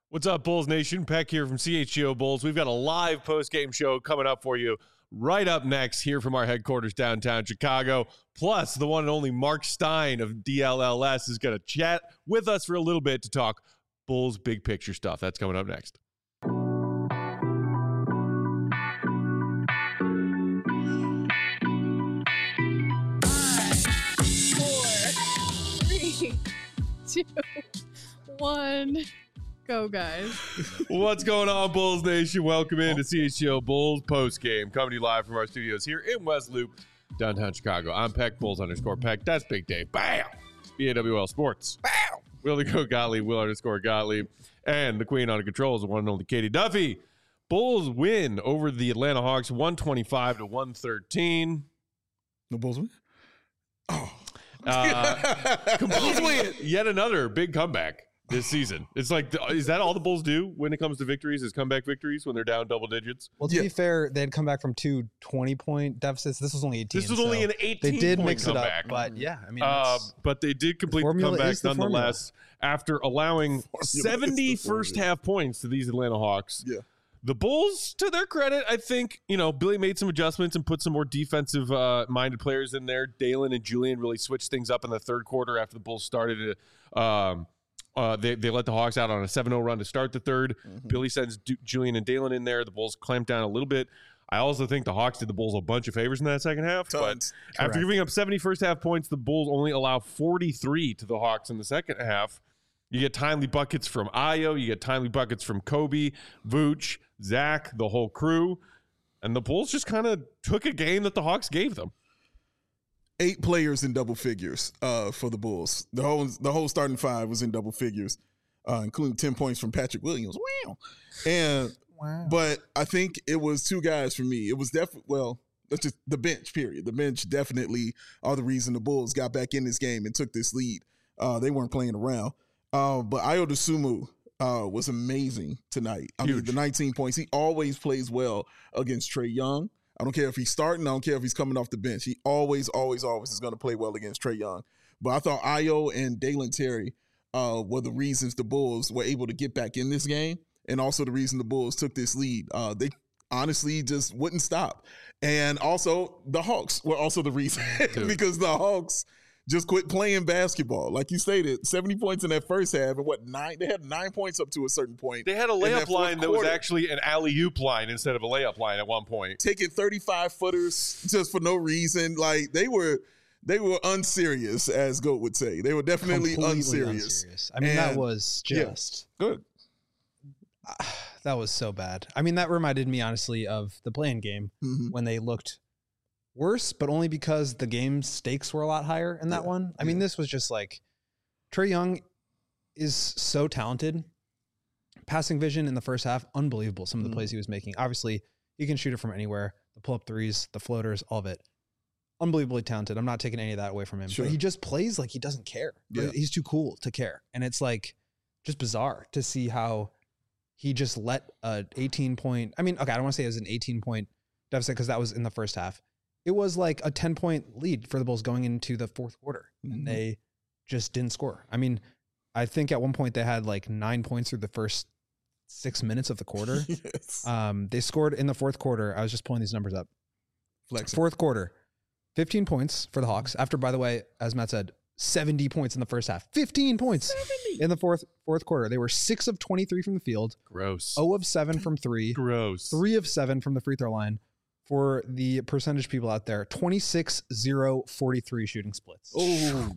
What's up, Bulls Nation? Peck here from CHGO Bulls. We've got a live post-game show coming up for you right up next here from our headquarters downtown Chicago. Plus, the one and only Mark Stein of DLLS is going to chat with us for a little bit to talk Bulls big picture stuff. That's coming up next. 2, 1, go, guys. What's going on, Bulls Nation? Welcome in to CHGO Bulls postgame, coming to you live from our studios here in West Loop, downtown Chicago. I'm Peck, Bulls_Peck. That's Big Dave. Bam! BAWL Sports. Bam! Willie Go Gottlieb, Will_Gottlieb. And the queen on controls, the one and only Katie Duffy. Bulls win over the Atlanta Hawks, 125-113. The Bulls win? Oh. Bulls win. Yet another big comeback this season. It's like, is that all the Bulls do when it comes to victories, is comeback victories when they're down double digits? Well, to be fair, they had come back from 2 20-point deficits. This was only 18. This was only an 18-point They did mix comeback. it up, but yeah, I mean, but they did complete the comeback nonetheless after allowing 70 first-half points to these Atlanta Hawks. Yeah. The Bulls, to their credit, I think, Billy made some adjustments and put some more defensive-minded players in there. Dalen and Julian really switched things up in the third quarter after the Bulls started to they let the Hawks out on a 7-0 run to start the third. Mm-hmm. Billy sends Julian and Dalen in there. The Bulls clamped down a little bit. I also think the Hawks did the Bulls a bunch of favors in that second half. Tons. But after giving up 70 first-half points, the Bulls only allow 43 to the Hawks in the second half. You get timely buckets from Ayo. You get timely buckets from Kobe, Vooch, Zach, the whole crew. And the Bulls just kind of took a game that the Hawks gave them. 8 players in double figures for the Bulls. The whole starting 5 was in double figures, including 10 points from Patrick Williams. Wow. But I think it was 2 guys for me. It was definitely, that's just the bench, period. The bench definitely are the reason the Bulls got back in this game and took this lead. They weren't playing around. But Ayo Dosunmu was amazing tonight. I mean, the 19 points. He always plays well against Trae Young. I don't care if he's starting. I don't care if he's coming off the bench. He always is going to play well against Trae Young. But I thought Ayo and Dalen Terry were the reasons the Bulls were able to get back in this game, and also the reason the Bulls took this lead. They honestly just wouldn't stop. And also the Hawks were also the reason because the Hawks just quit playing basketball. Like you stated, 70 points in that first half, and 9? They had 9 points up to a certain point. They had a layup line that was actually an alley-oop line instead of a layup line at one point. Taking 35-footers just for no reason. Like, they were unserious, as Goat would say. They were definitely unserious. I mean, that was just good. That was so bad. I mean, that reminded me, honestly, of the play-in game when they looked worse, but only because the game stakes were a lot higher in that one. I mean, this was just like, Trae Young is so talented. Passing vision in the first half, unbelievable. Some of the plays he was making. Obviously, he can shoot it from anywhere. The pull-up threes, the floaters, all of it. Unbelievably talented. I'm not taking any of that away from him. Sure. But he just plays like he doesn't care. Yeah. He's too cool to care. And it's like just bizarre to see how he just let a 18-point, I mean, okay, I don't want to say it was an 18-point deficit because that was in the first half. It was like a 10-point lead for the Bulls going into the fourth quarter, and they just didn't score. I mean, I think at one point they had like 9 points through the first 6 minutes of the quarter. Yes. They scored in the fourth quarter. I was just pulling these numbers up. Flexing. Fourth quarter, 15 points for the Hawks. After, by the way, as Matt said, 70 points in the first half. 15 points 70. In the fourth quarter. They were 6 of 23 from the field. Gross. 0 of 7 from 3. Gross. 3 of 7 from the free throw line. For the percentage people out there, 26-0-43 shooting splits. Oh,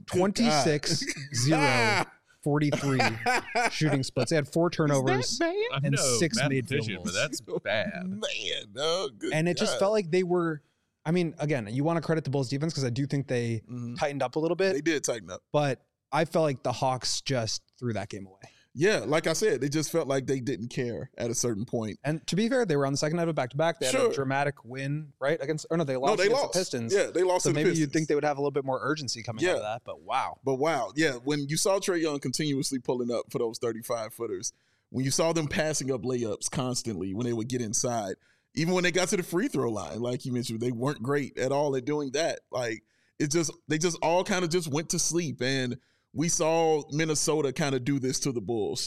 26-0-43 shooting splits. They had 4 turnovers and 6 made field goals. But that's bad. Man, and it just felt like they were, I mean, again, you want to credit the Bulls defense because I do think they tightened up a little bit. They did tighten up. But I felt like the Hawks just threw that game away. Yeah, like I said, they just felt like they didn't care at a certain point. And to be fair, they were on the second night of a back-to-back. They had a dramatic win, right? They lost against the Pistons. Yeah, they lost to the Pistons. So maybe you'd think they would have a little bit more urgency coming out of that, but wow. Yeah, when you saw Trae Young continuously pulling up for those 35-footers, when you saw them passing up layups constantly when they would get inside, even when they got to the free throw line, like you mentioned, they weren't great at all at doing that. Like, they just all kind of just went to sleep, and we saw Minnesota kind of do this to the Bulls.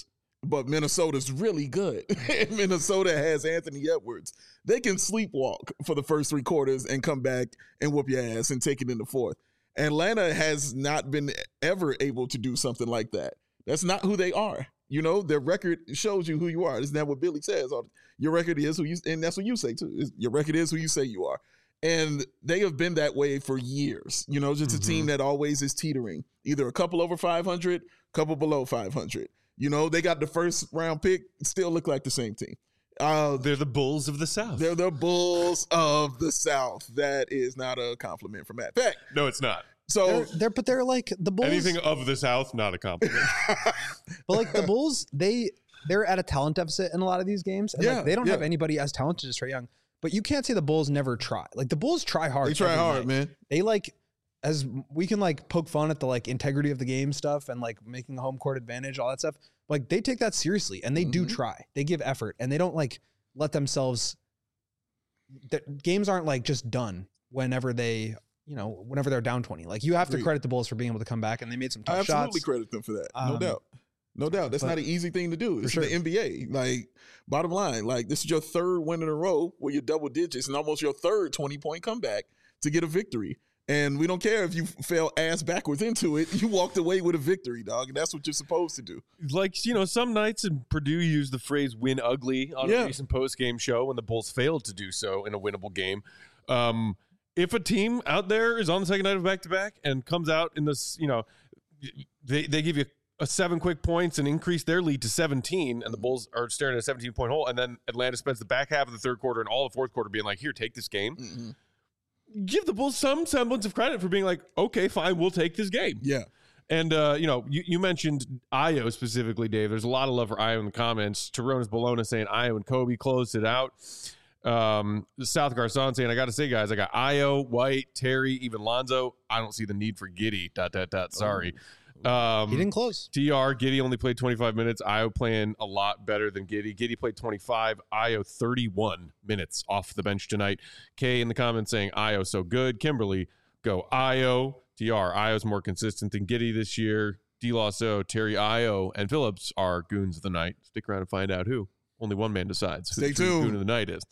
but Minnesota's really good. Minnesota has Anthony Edwards. They can sleepwalk for the first 3 quarters and come back and whoop your ass and take it in the fourth. Atlanta has not been ever able to do something like that. That's not who they are. You know, their record shows you who you are. Isn't that what Billy says? Your record is who you, and that's what you say too. Your record is who you say you are. And they have been that way for years. You know, just a team that always is teetering. Either a couple over 500, couple below 500. You know, they got the first round pick, still look like the same team. They're the Bulls of the South. They're the Bulls of the South. That is not a compliment from Matt Peck. No, it's not. So they're like the Bulls. Anything of the South, not a compliment. But like the Bulls, they're at a talent deficit in a lot of these games. And like, they don't have anybody as talented as Trae Young. But you can't say the Bulls never try. Like the Bulls try hard. They try hard, man. They like, as we can like poke fun at the like integrity of the game stuff and like making a home court advantage, all that stuff. Like they take that seriously and they do try. They give effort and they don't like let themselves. The games aren't like just done whenever whenever they're down 20. Like you have to credit the Bulls for being able to come back and they made some tough shots. I absolutely credit them for that. No doubt. No doubt. That's not an easy thing to do. It's the NBA. Like, bottom line, like, this is your 3rd win in a row where you're double digits and almost your 3rd 20-point comeback to get a victory. And we don't care if you fell ass backwards into it. You walked away with a victory, dog. And that's what you're supposed to do. Like, you know, some nights in Purdue used the phrase win ugly on a recent post-game show when the Bulls failed to do so in a winnable game. If a team out there is on the second night of back-to-back and comes out in this, you know, they give you a 7 quick points and increase their lead to 17, and the Bulls are staring at a 17-point hole, and then Atlanta spends the back half of the third quarter and all the fourth quarter being like, here, take this game. Give the Bulls some semblance of credit for being like, okay, fine, we'll take this game. Yeah. And, you know, you mentioned Ayo specifically, Dave. There's a lot of love for Ayo in the comments. Taronis Bologna saying Ayo and Kobe closed it out. South Garcon saying, I got to say, guys, I got Ayo, White, Terry, even Lonzo. I don't see the need for Giddey, ... Sorry. He didn't close. TR, Giddey only played 25 minutes. Ayo playing a lot better than Giddey. Giddey played 25. Ayo 31 minutes off the bench tonight. Kay in the comments saying Ayo so good. Kimberly, go Ayo. TR, Ayo's more consistent than Giddey this year. D-Lasso, Terry Ayo, and Phillips are goons of the night. Stick around and find out who. Only one man decides who Stay the true tuned. goon of the night is.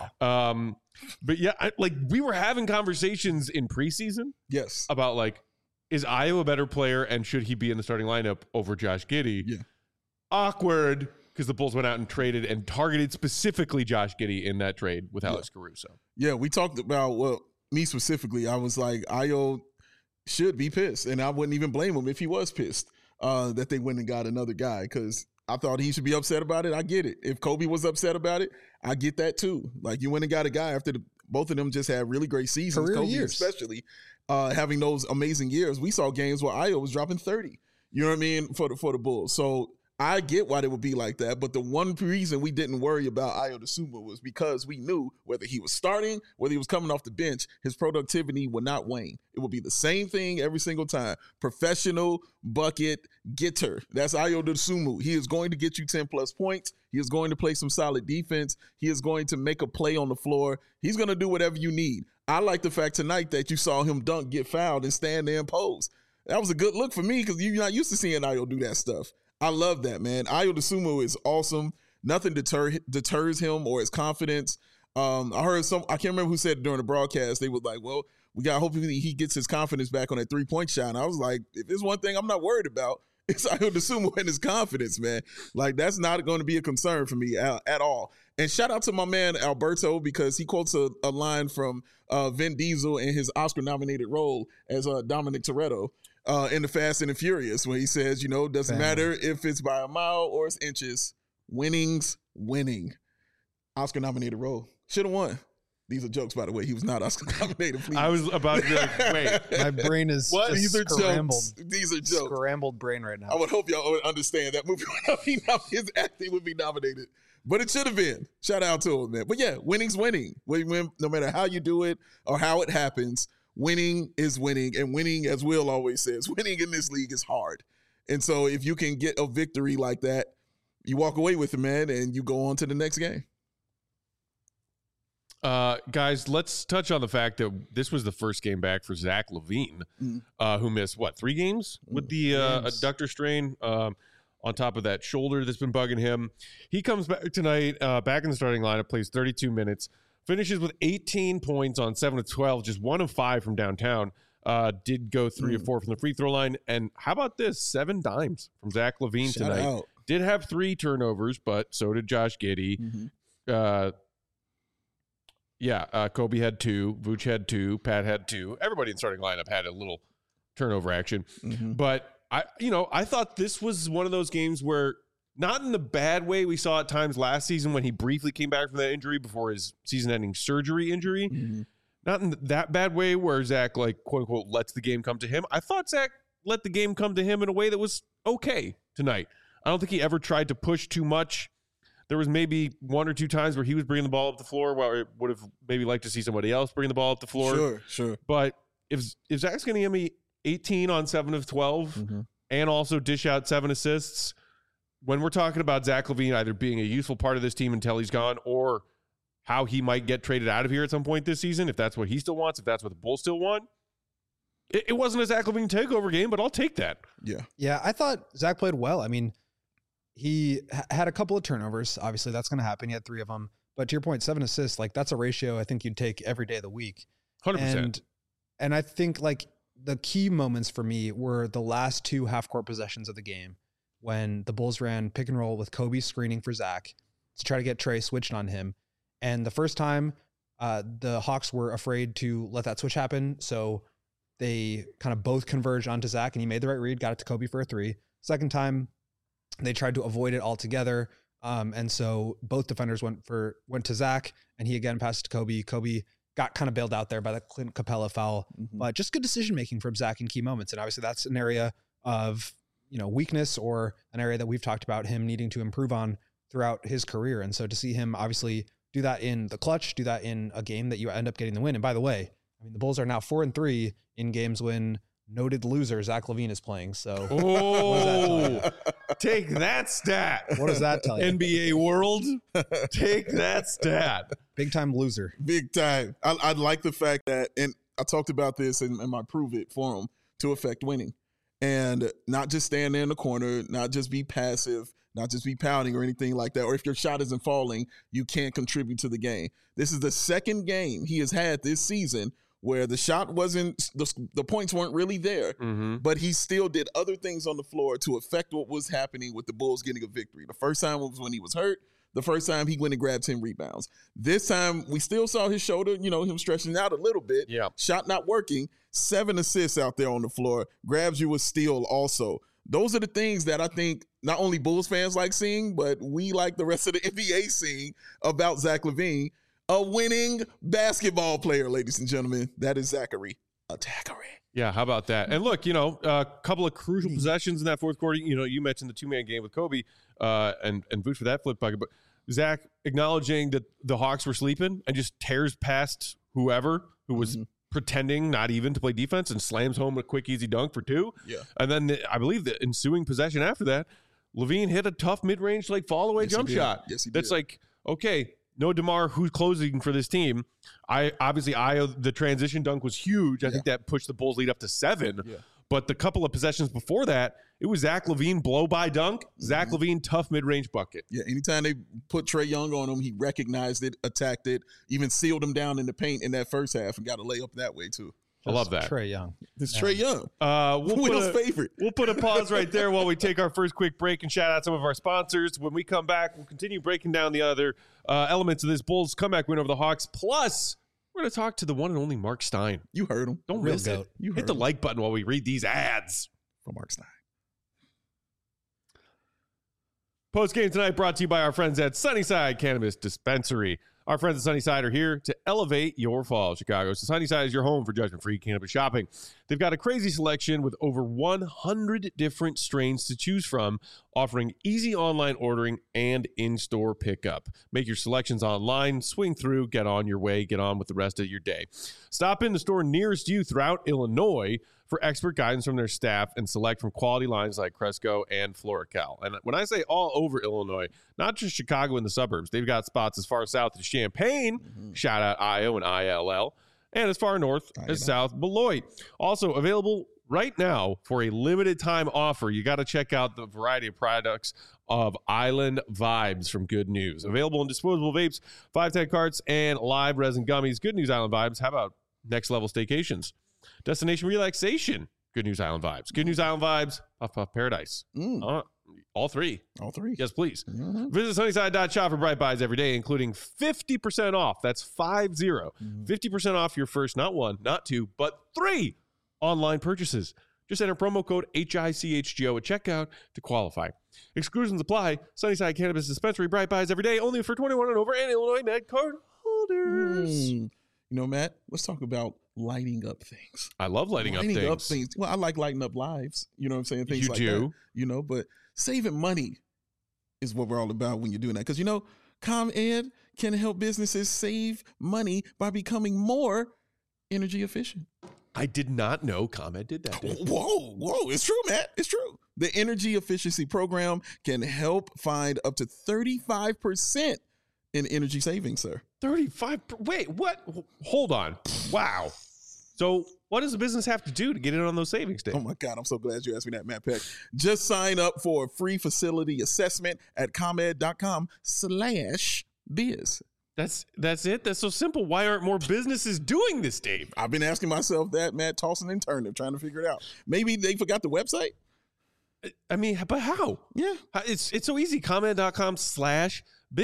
Wow. But yeah, we were having conversations in preseason. Yes. About like, is Ayo a better player and should he be in the starting lineup over Josh Giddey? Yeah. Awkward, because the Bulls went out and traded and targeted specifically Josh Giddey in that trade with Alex Caruso. Yeah, we talked about, well, me specifically, I was like, Ayo should be pissed, and I wouldn't even blame him if he was pissed that they went and got another guy, because I thought he should be upset about it. I get it. If Kobe was upset about it, I get that too. Like, you went and got a guy after both of them just had really great seasons, Career Kobe years. especially. Having those amazing years. We saw games where Ayo was dropping 30. You know what I mean? For the Bulls. So I get why they would be like that. But the one reason we didn't worry about Ayo Dosunmu was because we knew whether he was starting, whether he was coming off the bench, his productivity would not wane. It would be the same thing every single time. Professional bucket getter. That's Ayo Dosunmu. He is going to get you 10 plus points. He is going to play some solid defense. He is going to make a play on the floor. He's going to do whatever you need. I like the fact tonight that you saw him dunk, get fouled, and stand there and pose. That was a good look for me because you're not used to seeing Ayo do that stuff. I love that, man. Ayo Dosunmu is awesome. Nothing deters him or his confidence. I heard I can't remember who said it during the broadcast. They was like, well, we got hopefully he gets his confidence back on that 3-point shot. And I was like, if there's one thing I'm not worried about, it's Ayo Dosunmu and his confidence, man. Like, that's not going to be a concern for me at all. And shout out to my man Alberto, because he quotes a line from Vin Diesel in his Oscar-nominated role as Dominic Toretto in The Fast and the Furious, where he says, you know, doesn't matter if it's by a mile or it's inches, winning's winning. Oscar-nominated role. Should have won. These are jokes, by the way. He was not Oscar-nominated. Please. I was about to be like, wait. My brain is What? just These are scrambled. jokes. These are jokes. Scrambled brain right now. I would hope y'all would understand that movie would not be his acting would be nominated. But it should have been. Shout out to him, man. But yeah, winning's winning. No matter how you do it or how it happens, winning is winning. And winning, as Will always says, winning in this league is hard. And so if you can get a victory like that, you walk away with it, man, and you go on to the next game. Guys, let's touch on the fact that this was the first game back for Zach LaVine, who missed, 3 games with the adductor strain. on top of that shoulder that's been bugging him. He comes back tonight, back in the starting lineup, plays 32 minutes, finishes with 18 points on 7 of 12, just 1 of 5 from downtown. Did go 3 of 4 from the free throw line. And how about this? 7 dimes from Zach LaVine tonight. Out. Did have 3 turnovers, but so did Josh Giddey. Kobe had 2. Vooch had 2. Pat had 2. Everybody in the starting lineup had a little turnover action. But I thought this was one of those games where, not in the bad way we saw at times last season when he briefly came back from that injury before his season-ending surgery injury. Not in that bad way where Zach, like, quote unquote, lets the game come to him. I thought Zach let the game come to him in a way that was okay tonight. I don't think he ever tried to push too much. There was maybe 1 or 2 times where he was bringing the ball up the floor, while I would have maybe liked to see somebody else bring the ball up the floor. Sure. But if Zach's going to give me 18 on 7 of 12 and also dish out 7 assists, when we're talking about Zach LaVine either being a useful part of this team until he's gone, or how he might get traded out of here at some point this season, if that's what he still wants, if that's what the Bulls still want, it wasn't a Zach LaVine takeover game, but I'll take that. Yeah, I thought Zach played well. I mean, he had a couple of turnovers. Obviously, that's going to happen. He had 3 of them. But to your point, 7 assists, like, that's a ratio I think you'd take every day of the week. 100%. And I think, like, the key moments for me were the last 2 half-court possessions of the game when the Bulls ran pick and roll with Kobe screening for Zach to try to get Trey switched on him. And the first time, the Hawks were afraid to let that switch happen, so they kind of both converged onto Zach, and he made the right read, got it to Kobe for a 3. Second time, they tried to avoid it altogether, and so both defenders went to Zach, and he again passed to Kobe. Kobe got kind of bailed out there by the Clint Capella foul, but just good decision making from Zach in key moments. And obviously, that's an area of weakness, or an area that we've talked about him needing to improve on throughout his career. And so to see him obviously do that in the clutch, do that in a game that you end up getting the win. And by the way, I mean, the Bulls are now 4-3 in games when noted loser Zach LaVine is playing. So take that stat. What does that tell you? NBA world, take that stat. Big time loser. Big time. I like the fact that, and I talked about this in my Prove It forum, to affect winning. And not just stand there in the corner, not just be passive, not just be pounding or anything like that. Or if your shot isn't falling, you can't contribute to the game. This is the second game he has had this season where the shot wasn't, the points weren't really there, but he still did other things on the floor to affect what was happening with the Bulls getting a victory. The first time was when he was hurt. The first time he went and grabbed 10 rebounds. This time we still saw his shoulder, him stretching out a little bit. Yeah. Shot not working. 7 assists out there on the floor. Grabs you a steal also. Those are the things that I think not only Bulls fans like seeing, but we, like the rest of the NBA, seeing about Zach LaVine. A winning basketball player, ladies and gentlemen. That is Zachary Attackery. Yeah, how about that? And look, a couple of crucial possessions in that fourth quarter. You mentioned the 2-man game with Kobe and Vooch for that flip bucket, but Zach acknowledging that the Hawks were sleeping and just tears past whoever who was pretending not even to play defense and slams home a quick, easy dunk for 2. Yeah. And then I believe the ensuing possession after that, LaVine hit a tough mid-range fall-away jump shot. Yes, he did. That's like, okay, no DeMar, who's closing for this team. The transition dunk was huge. I think that pushed the Bulls lead up to 7. Yeah. But the couple of possessions before that, it was Zach LaVine blow-by dunk, Zach LaVine tough mid-range bucket. Yeah, anytime they put Trae Young on him, he recognized it, attacked it, even sealed him down in the paint in that first half and got a layup that way too. I love that. Trae Young. It's Trae Young. Will's favorite. We'll put a pause right there while we take our first quick break and shout out some of our sponsors. When we come back, we'll continue breaking down the other elements of this Bulls comeback win over the Hawks. Plus, we're going to talk to the one and only Mark Stein. You heard him. Don't miss it. Hit the like button while we read these ads. From Mark Stein. Post game tonight brought to you by our friends at Sunnyside Cannabis Dispensary. Our friends at Sunnyside are here to elevate your fall, Chicago. So Sunnyside is your home for judgment-free cannabis shopping. They've got a crazy selection with over 100 different strains to choose from, offering easy online ordering and in-store pickup. Make your selections online, swing through, get on your way, get on with the rest of your day. Stop in the store nearest you throughout Illinois for expert guidance from their staff and select from quality lines like Cresco and Floracal. And when I say all over Illinois, not just Chicago and the suburbs, they've got spots as far south as Champaign, shout out IO and ILL, and as far north as South Beloit. Also available right now, for a limited time offer, you got to check out the variety of products of Island Vibes from Good News. Available in disposable vapes, 510 carts, and live resin gummies. Good News Island Vibes. How about next level staycations? Destination relaxation. Good News Island Vibes. Good News Island Vibes. Puff Puff Paradise. All three. All three. Yes, please. Mm-hmm. Visit Sunnyside.shop for bright buys every day, including 50% off. That's 50. 50% off your first, not one, not two, but 3 online purchases. Just enter promo code HICHGO at checkout to qualify. Exclusions apply. Sunnyside Cannabis Dispensary, bright buys every day, only for 21 and over, and Illinois Med card holders. You know, Matt, let's talk about lighting up things. I love lighting up things. Well, I like lighting up lives. You know what I'm saying? Things You like do. that. You know, but saving money is what we're all about when you're doing that. Because, you know, ComEd can help businesses save money by becoming more energy efficient. I did not know ComEd did that. Whoa. It's true, Matt. It's true. The Energy Efficiency Program can help find up to 35% in energy savings, sir. 35. Wait, what? Hold on. Wow. So what does a business have to do to get in on those savings days? Oh my God, I'm so glad you asked me that, Matt Peck. Just sign up for a free facility assessment at ComEd.com/biz. That's it? That's so simple. Why aren't more businesses doing this, Dave? I've been asking myself that, Matt, tossing and turning, trying to figure it out. Maybe they forgot the website? I mean, but how? Yeah. It's so easy. ComEd.com/biz.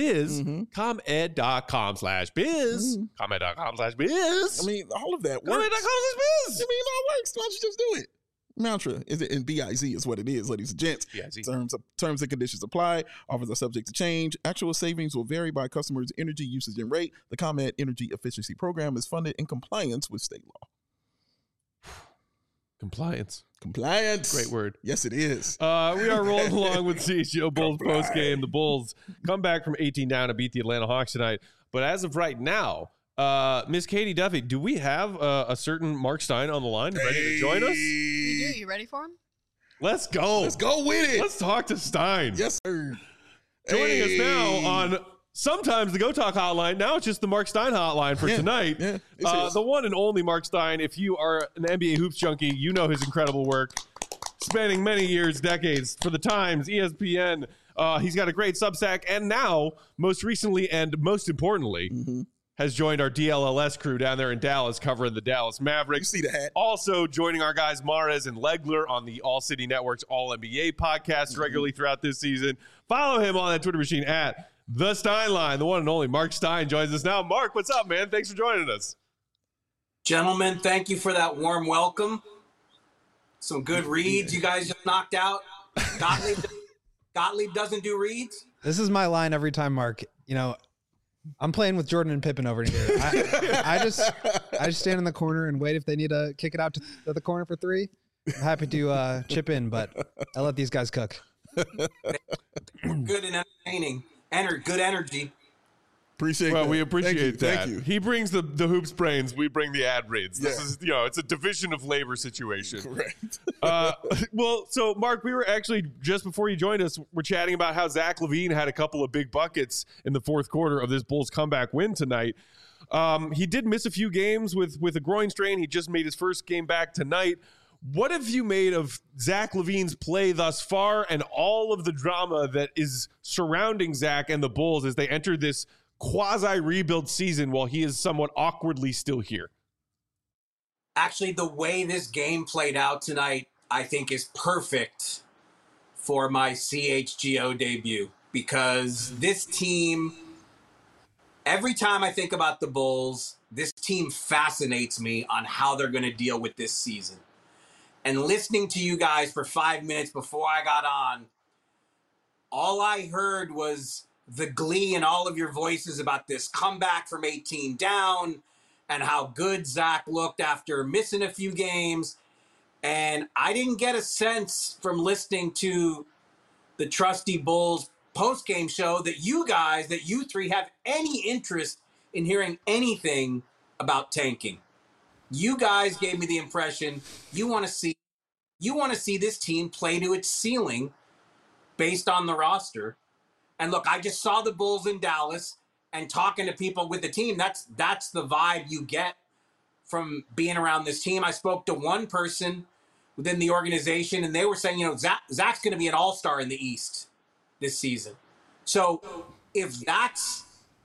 ComEd.com/biz. ComEd.com/biz. I mean, all of that works. ComEd.com/biz. I mean, it all works. Why don't you just do it? Mantra is it, and BIZ is what it is, ladies and gents. BIZ. Terms and conditions apply. Offers are subject to change. Actual savings will vary by customers' energy usage and rate. The ComEd Energy Efficiency Program is funded in compliance with state law. Compliance. Compliance. Great word. Yes, it is. We are rolling along with CHGO Bulls post game. The Bulls come back from 18 down to beat the Atlanta Hawks tonight. But as of right now, Miss Katie Duffy, do we have a certain Mark Stein on the line ready to join us? We do. You ready for him? Let's go. Let's go with it. Let's talk to Stein. Yes, sir. Joining us now on sometimes the Go Talk hotline. Now it's just the Mark Stein hotline for tonight. Yeah, the one and only Mark Stein. If you are an NBA hoops junkie, you know his incredible work, spanning many years, decades for the Times, ESPN. He's got a great Substack, and now, most recently and most importantly, has joined our DLLS crew down there in Dallas, covering the Dallas Mavericks. You see the hat. Also joining our guys Mahrez and Legler on the All City Network's All NBA podcast regularly throughout this season. Follow him on that Twitter machine at The Stein Line. The one and only Mark Stein joins us now. Mark, what's up, man? Thanks for joining us. Gentlemen, thank you for that warm welcome. Some good reads you guys just knocked out. Gottlieb doesn't do reads? This is my line every time, Mark. You know, I'm playing with Jordan and Pippen over here. I just stand in the corner and wait if they need to kick it out to the corner for 3. I'm happy to chip in, but I let these guys cook. Good and entertaining. Good energy. Appreciate Well, that. we appreciate that. Thank you. He brings the hoops brains. We bring the ad reads. This Yeah. is, it's a division of labor situation. Correct. Well, so Mark, we were actually just before you joined us, we're chatting about how Zach LaVine had a couple of big buckets in the fourth quarter of this Bulls comeback win tonight. He did miss a few games with a groin strain. He just made his first game back tonight. What have you made of Zach LaVine's play thus far and all of the drama that is surrounding Zach and the Bulls as they enter this quasi-rebuild season while he is somewhat awkwardly still here? Actually, the way this game played out tonight, I think is perfect for my CHGO debut because this team, every time I think about the Bulls, this team fascinates me on how they're going to deal with this season. And listening to you guys for 5 minutes before I got on, all I heard was the glee in all of your voices about this comeback from 18 down and how good Zach looked after missing a few games. And I didn't get a sense from listening to the Trusty Bulls post-game show that you three have any interest in hearing anything about tanking. You guys gave me the impression you want to see this team play to its ceiling based on the roster. And look, I just saw the Bulls in Dallas and talking to people with the team. That's the vibe you get from being around this team. I spoke to one person within the organization, and they were saying, Zach's going to be an all-star in the East this season. So if that's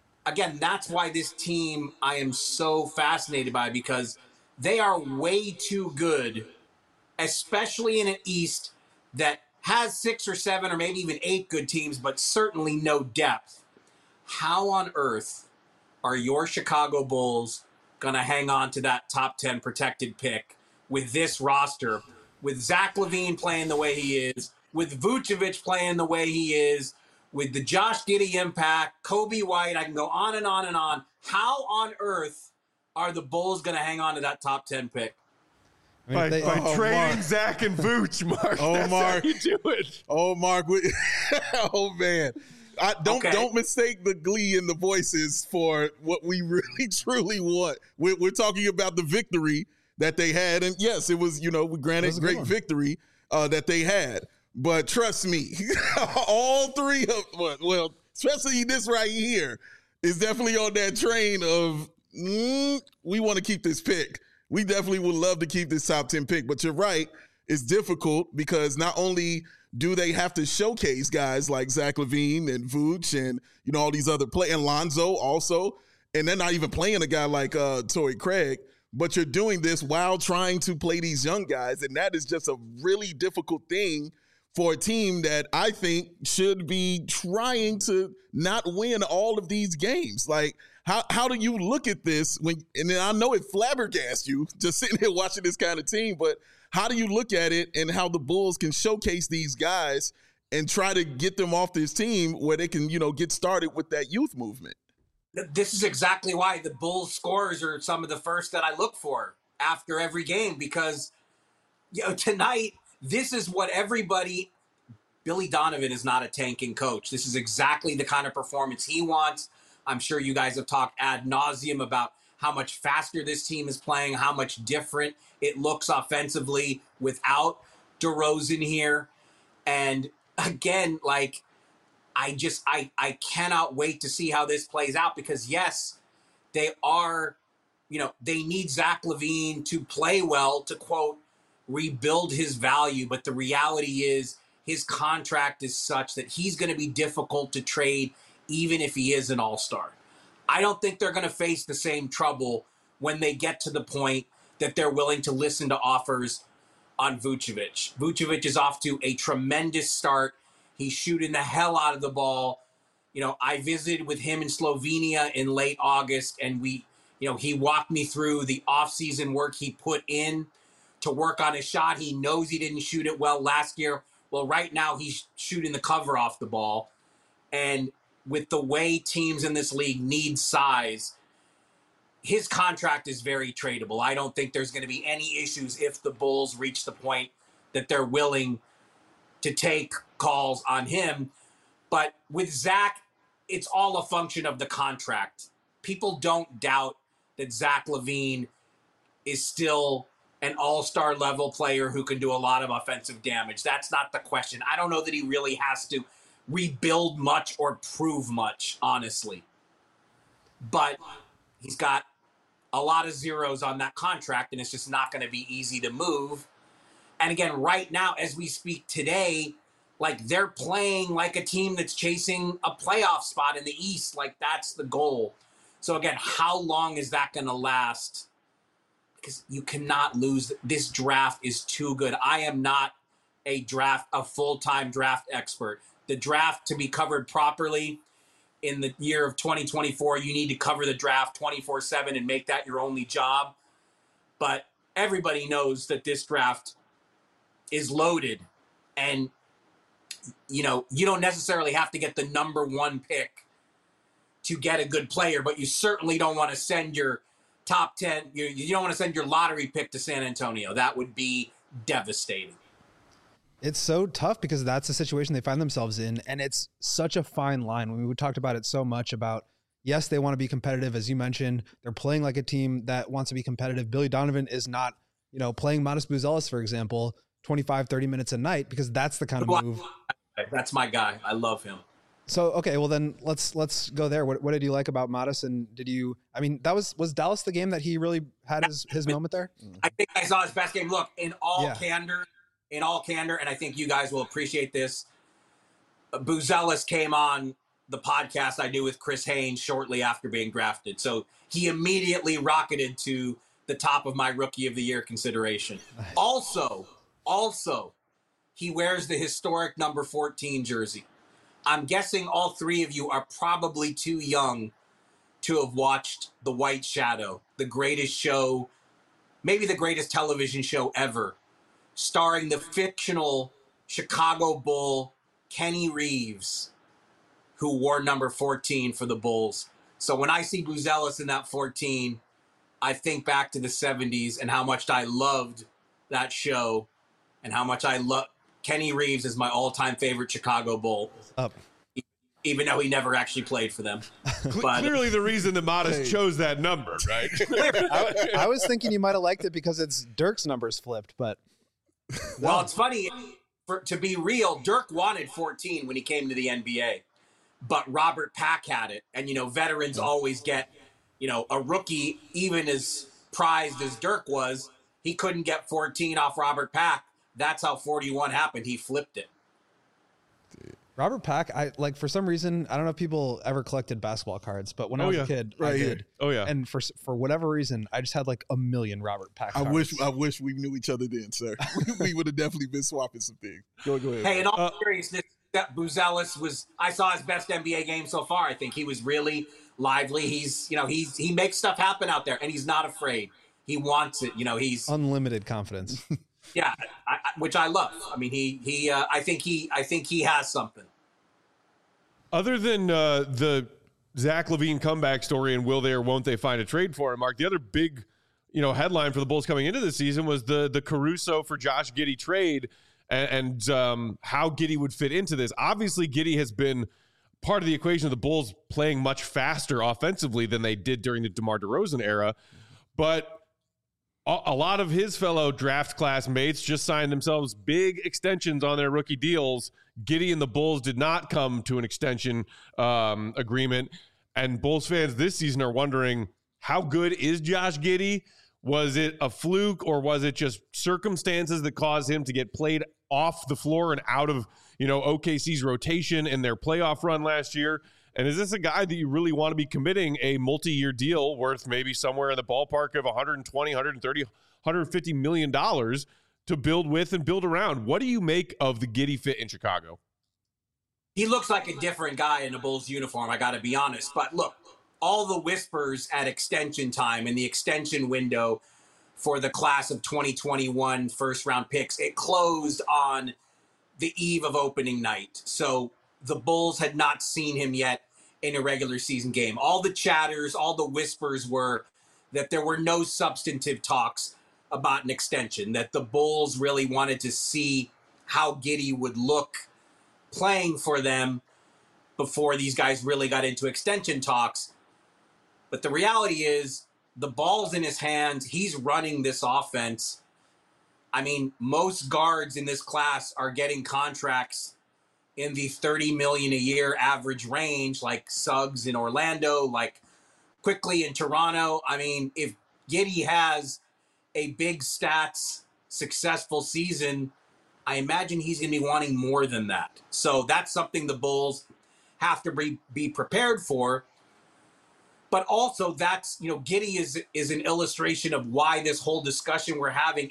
why this team I am so fascinated by, because they are way too good, especially in an East that has 6 or 7 or maybe even 8 good teams, but certainly no depth. How on earth are your Chicago Bulls going to hang on to that top 10 protected pick with this roster, with Zach LaVine playing the way he is, with Vucevic playing the way he is, with the Josh Giddey impact, Kobe White, I can go on and on and on. How on earth are the Bulls going to hang on to that top 10 pick? By trading Zach and Vooch, Mark. That's Mark. how you do it. Mark. Oh, man. Don't mistake the glee in the voices for what we really, truly want. We're talking about the victory that they had. And, yes, it was, granted, great victory that they had. But trust me, all three of, well, especially this right here, is definitely on that train of, we want to keep this pick. We definitely would love to keep this top 10 pick. But you're right, it's difficult because not only do they have to showcase guys like Zach LaVine and Vooch and, all these other players, and Lonzo also, and they're not even playing a guy like Torrey Craig, but you're doing this while trying to play these young guys, and that is just a really difficult thing for a team that I think should be trying to not win all of these games. Like, how do you look at this and I know it flabbergasts you just sitting here watching this kind of team, but how do you look at it and how the Bulls can showcase these guys and try to get them off this team where they can, get started with that youth movement? This is exactly why the Bulls scores are some of the first that I look for after every game, because, tonight, this is what Billy Donovan is not a tanking coach. This is exactly the kind of performance he wants. I'm sure you guys have talked ad nauseum about how much faster this team is playing, how much different it looks offensively without DeRozan here. And again, I cannot wait to see how this plays out, because yes, they are, they need Zach LaVine to play well to, quote, rebuild his value. But the reality is his contract is such that he's going to be difficult to trade even if he is an all-star. I don't think they're going to face the same trouble when they get to the point that they're willing to listen to offers on Vucevic. Vucevic is off to a tremendous start. He's shooting the hell out of the ball. I visited with him in Slovenia in late August, and he walked me through the offseason work he put in to work on his shot. He knows he didn't shoot it well last year. Well, right now he's shooting the cover off the ball. And with the way teams in this league need size, his contract is very tradable. I don't think there's going to be any issues if the Bulls reach the point that they're willing to take calls on him. But with Zach, it's all a function of the contract. People don't doubt that Zach LaVine is still an all-star level player who can do a lot of offensive damage. That's not the question. I don't know that he really has to rebuild much or prove much, honestly. But he's got a lot of zeros on that contract, and it's just not going to be easy to move. And again, right now, as we speak today, they're playing like a team that's chasing a playoff spot in the East. That's the goal. So again, how long is that going to last? Because you cannot lose. This draft is too good. I am not a full-time draft expert. The draft, to be covered properly in the year of 2024, you need to cover the draft 24/7 and make that your only job. But everybody knows that this draft is loaded, and you don't necessarily have to get the number 1 pick to get a good player, but you certainly don't want to send your top 10, you don't want to send your lottery pick to San Antonio. That would be devastating. It's so tough because that's the situation they find themselves in, and it's such a fine line. We talked about it so much about, yes, they want to be competitive. As you mentioned, they're playing like a team that wants to be competitive. Billy Donovan is not, playing Matas Buzelis, for example, 25, 30 minutes a night, because that's the kind of move. That's my guy. I love him. So okay, well then let's go there. What did you like about Modest? And was Dallas the game that he really had his moment there? I think I saw his best game. Look, in all candor, and I think you guys will appreciate this. Buzelis came on the podcast I do with Chris Haynes shortly after being drafted, so he immediately rocketed to the top of my Rookie of the Year consideration. Nice. Also, he wears the historic number 14 jersey. I'm guessing all three of you are probably too young to have watched The White Shadow, the greatest show, maybe the greatest television show ever, starring the fictional Chicago Bull Kenny Reeves, who wore number 14 for the Bulls. So when I see Buzelis in that 14, I think back to the 70s and how much I loved that show and how much I love Kenny Reeves is my all-time favorite Chicago Bull. Even though he never actually played for them. But clearly the reason that Modest chose that number, right? I was thinking you might have liked it because it's Dirk's numbers flipped, but no. Well, it's funny. To be real, Dirk wanted 14 when he came to the NBA, but Robert Pack had it. And, veterans always get, a rookie, even as prized as Dirk was, he couldn't get 14 off Robert Pack. That's how 41 happened. He flipped it. Robert Pack, for some reason, I don't know if people ever collected basketball cards, but when I was a kid, I did. Oh yeah. And for whatever reason, I just had like a million Robert Pack cards. I wish we knew each other then, sir. We would have definitely been swapping some things. Go ahead. Hey, in all seriousness, that Buzelis I saw his best NBA game so far. I think he was really lively. He makes stuff happen out there, and he's not afraid. He wants it. He's unlimited confidence. Yeah, which I love. I mean, I think he has something. Other than the Zach LaVine comeback story and will they or won't they find a trade for him, Mark, the other big, headline for the Bulls coming into the season was the Caruso for Josh Giddey trade and how Giddey would fit into this. Obviously, Giddey has been part of the equation of the Bulls playing much faster offensively than they did during the DeMar DeRozan era, but a lot of his fellow draft class mates just signed themselves big extensions on their rookie deals. Giddey and the Bulls did not come to an extension agreement. And Bulls fans this season are wondering, how good is Josh Giddey? Was it a fluke or was it just circumstances that caused him to get played off the floor and out of, OKC's rotation in their playoff run last year? And is this a guy that you really want to be committing a multi-year deal worth maybe somewhere in the ballpark of 120, 130, 150 million dollars to build with and build around? What do you make of the Giddey fit in Chicago? He looks like a different guy in a Bulls uniform, I got to be honest. But look, all the whispers at extension time and the extension window for the class of 2021 first-round picks, it closed on the eve of opening night. So the Bulls had not seen him yet in a regular season game. All the chatters, all the whispers were that there were no substantive talks about an extension, that the Bulls really wanted to see how Giddey would look playing for them before these guys really got into extension talks. But the reality is the ball's in his hands. He's running this offense. I mean, most guards in this class are getting contracts in the $30 million a year average range, like Suggs in Orlando, like Quickly in Toronto. I mean, if Giddey has a big stats, successful season, I imagine he's going to be wanting more than that. So that's something the Bulls have to be prepared for. But also that's, Giddey is an illustration of why this whole discussion we're having,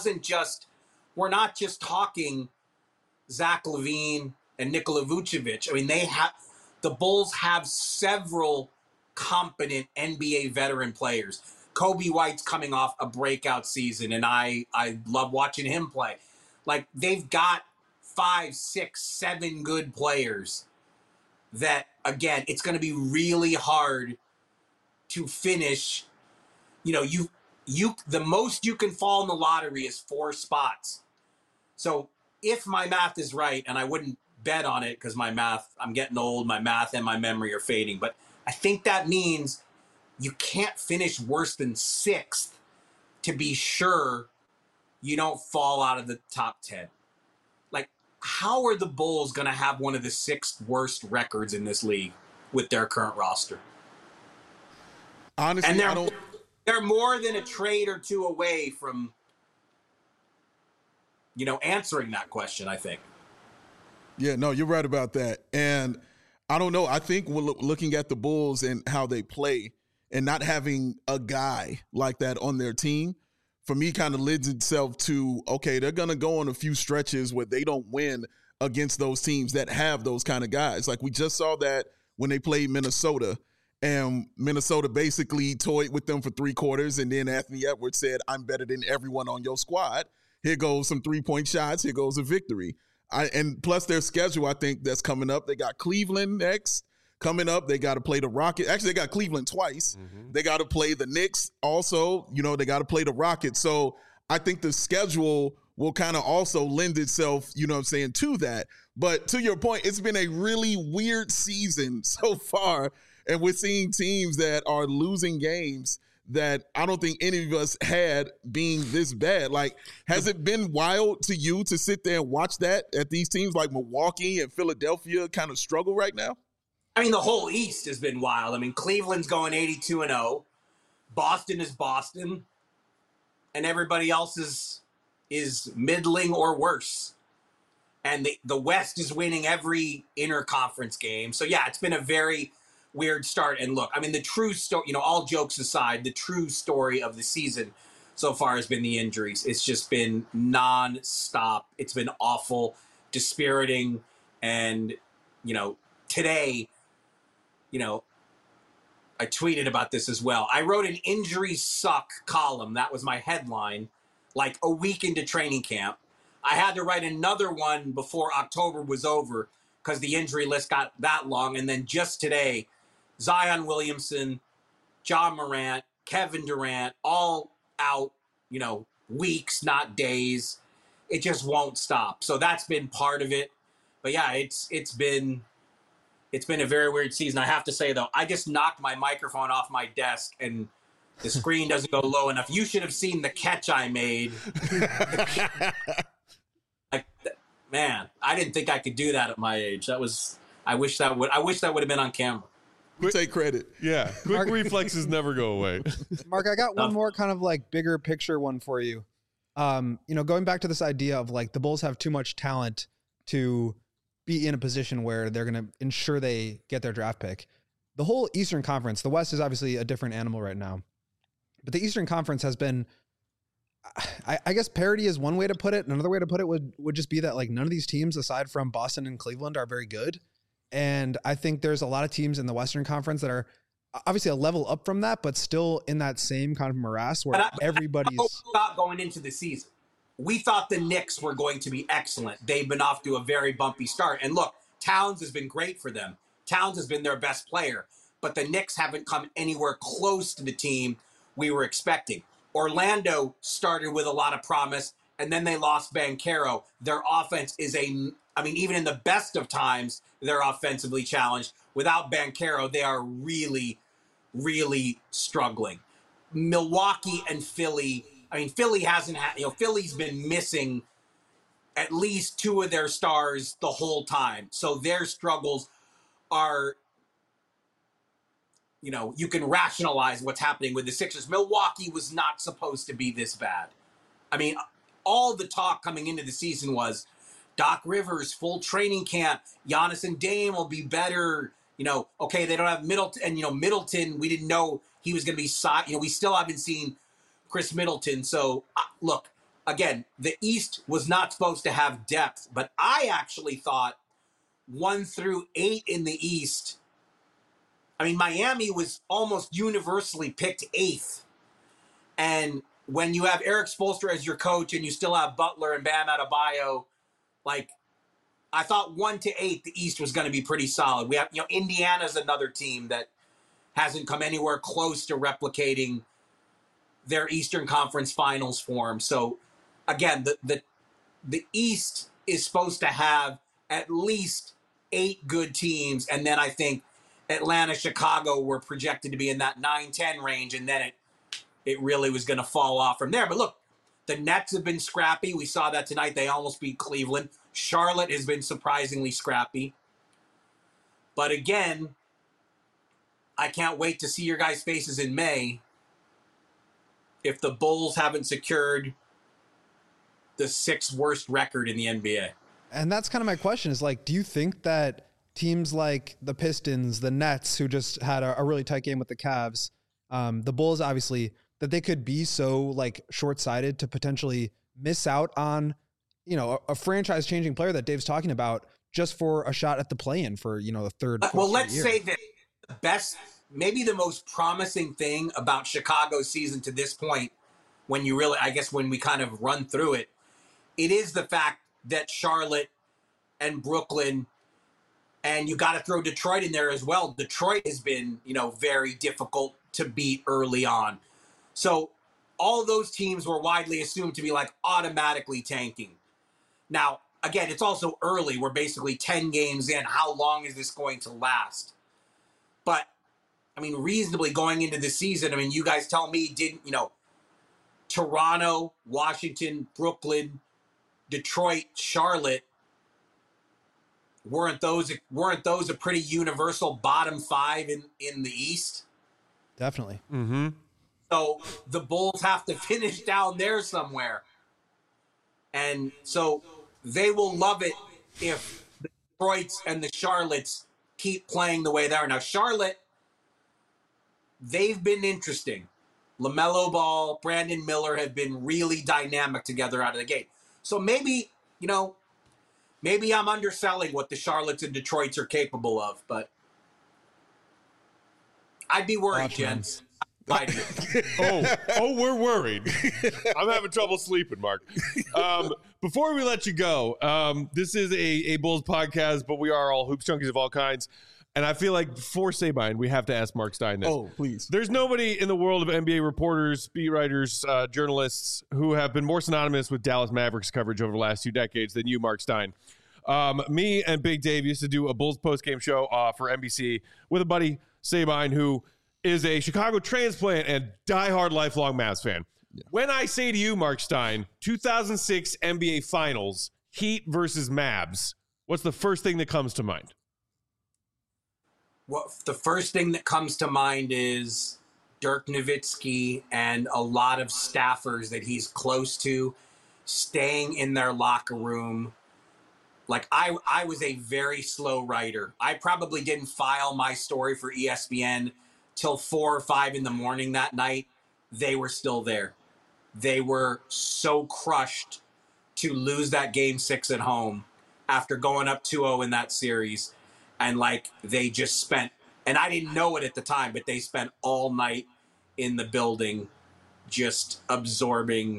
we're not just talking Zach LaVine and Nikola Vucevic. I mean, the Bulls have several competent NBA veteran players. Kobe White's coming off a breakout season, and I love watching him play. Like, they've got 5, 6, 7 good players that, again, it's going to be really hard to finish. The most you can fall in the lottery is 4 spots. So if my math is right, and I wouldn't bet on it because I'm getting old, my math and my memory are fading, but I think that means you can't finish worse than 6th to be sure you don't fall out of the top 10. Like, how are the Bulls going to have one of the 6th worst records in this league with their current roster? Honestly, and they're more than a trade or two away from, answering that question, I think. Yeah, no, you're right about that. And I don't know. I think we're looking at the Bulls and how they play and not having a guy like that on their team, for me, kind of lends itself to, okay, they're going to go on a few stretches where they don't win against those teams that have those kind of guys. Like we just saw that when they played Minnesota, and Minnesota basically toyed with them for 3 quarters, and then Anthony Edwards said, I'm better than everyone on your squad. Here goes some 3-point shots. Here goes a victory. And plus their schedule, I think, that's coming up. They got Cleveland next coming up. They got to play the Rockets. Actually, they got Cleveland twice. Mm-hmm. They got to play the Knicks also. They got to play the Rockets. So I think the schedule will kind of also lend itself, to that. But to your point, it's been a really weird season so far. And we're seeing teams that are losing games that I don't think any of us had being this bad. Like, has it been wild to you to sit there and watch that at these teams like Milwaukee and Philadelphia kind of struggle right now? I mean, the whole East has been wild. I mean, Cleveland's going 82-0. Boston is Boston. And everybody else is middling or worse. And the West is winning every interconference game. So, yeah, it's been a very weird start. And look, I mean, the true story, all jokes aside, the true story of the season so far has been the injuries. It's just been nonstop. It's been awful, dispiriting. And, today, I tweeted about this as well. I wrote an injuries suck column. That was my headline, like a week into training camp. I had to write another one before October was over because the injury list got that long. And then just today, Zion Williamson, Ja Morant, Kevin Durant, all out, weeks, not days. It just won't stop. So that's been part of it. But yeah, it's been a very weird season. I have to say though, I just knocked my microphone off my desk and the screen doesn't go low enough. You should have seen the catch I made. Man, I didn't think I could do that at my age. I wish that would have been on camera. We take credit. Yeah. Quick reflexes never go away. Mark, I got one more kind of like bigger picture one for you. Going back to this idea of like the Bulls have too much talent to be in a position where they're going to ensure they get their draft pick. The whole Eastern Conference, the West is obviously a different animal right now, but the Eastern Conference has been, I guess parity is one way to put it. Another way to put it would just be that like none of these teams aside from Boston and Cleveland are very good. And I think there's a lot of teams in the Western Conference that are obviously a level up from that, but still in that same kind of morass where everybody's not going into the season. We thought the Knicks were going to be excellent. They've been off to a very bumpy start. And look, Towns has been great for them. Towns has been their best player, but the Knicks haven't come anywhere close to the team we were expecting. Orlando started with a lot of promise, and then they lost Banchero. Their offense is even in the best of times, they're offensively challenged. Without Banchero, they are really, really struggling. Milwaukee and Philly, Philly hasn't had, Philly's been missing at least 2 of their stars the whole time. So their struggles are, you can rationalize what's happening with the Sixers. Milwaukee was not supposed to be this bad. All the talk coming into the season was Doc Rivers, full training camp, Giannis and Dame will be better. Okay, they don't have Middleton. And, Middleton, we didn't know he was going to be, we still haven't seen Chris Middleton. So, look, again, the East was not supposed to have depth, but I actually thought 1 through 8 in the East, Miami was almost universally picked 8th. And when you have Eric Spoelstra as your coach and you still have Butler and Bam Adebayo, I thought 1 to 8, the East was going to be pretty solid. We have, Indiana's another team that hasn't come anywhere close to replicating their Eastern Conference Finals form. So, again, the East is supposed to have at least 8 good teams, and then I think Atlanta, Chicago were projected to be in that 9-10 range, and then it really was going to fall off from there. But look, the Nets have been scrappy. We saw that tonight. They almost beat Cleveland. Charlotte has been surprisingly scrappy. But again, I can't wait to see your guys' faces in May if the Bulls haven't secured the 6th worst record in the NBA. And that's kind of my question is like, do you think that teams like the Pistons, the Nets, who just had a really tight game with the Cavs, the Bulls, obviously, that they could be so like short-sighted to potentially miss out on, you know, a franchise-changing player that Dave's talking about just for a shot at the play-in for, you know, the third. Well, let's say that the best, maybe the most promising thing about Chicago's season to this point, when you really, I guess, when we kind of run through it, it is the fact that Charlotte and Brooklyn, and you got to throw Detroit in there as well. Detroit has been, you know, very difficult to beat early on. So all those teams were widely assumed to be like automatically tanking. Now, again, it's also early. We're basically 10 games in. How long is this going to last? But, I mean, reasonably going into the season, I mean, you guys tell me, didn't, you know, Toronto, Washington, Brooklyn, Detroit, Charlotte, weren't those a pretty universal bottom 5 in the East? Definitely. Mm-hmm. So the Bulls have to finish down there somewhere. And so they will love it if the Detroits and the Charlottes keep playing the way they are. Now, Charlotte, they've been interesting. LaMelo Ball, Brandon Miller have been really dynamic together out of the gate. So maybe, you know, maybe I'm underselling what the Charlottes and Detroits are capable of, but I'd be worried, gents. We're worried. I'm having trouble sleeping, Mark. Before we let you go, this is a Bulls podcast, but we are all hoops junkies of all kinds. And I feel like for Sabine, we have to ask Mark Stein this. Oh, please. There's nobody in the world of NBA reporters, beat writers, journalists who have been more synonymous with Dallas Mavericks coverage over the last 2 decades than you, Mark Stein. Me and Big Dave used to do a Bulls postgame show for NBC with a buddy, Sabine, who is a Chicago transplant and diehard lifelong Mavs fan. Yeah. When I say to you, Mark Stein, 2006 NBA Finals, Heat versus Mavs, what's the first thing that comes to mind? Well, the first thing that comes to mind is Dirk Nowitzki and a lot of staffers that he's close to staying in their locker room. Like, I was a very slow writer. I probably didn't file my story for ESPN till 4 or 5 in the morning that night. They were still there. They were so crushed to lose that game 6 at home after going up 2-0 in that series. And like, they just spent, and I didn't know it at the time, but they spent all night in the building just absorbing.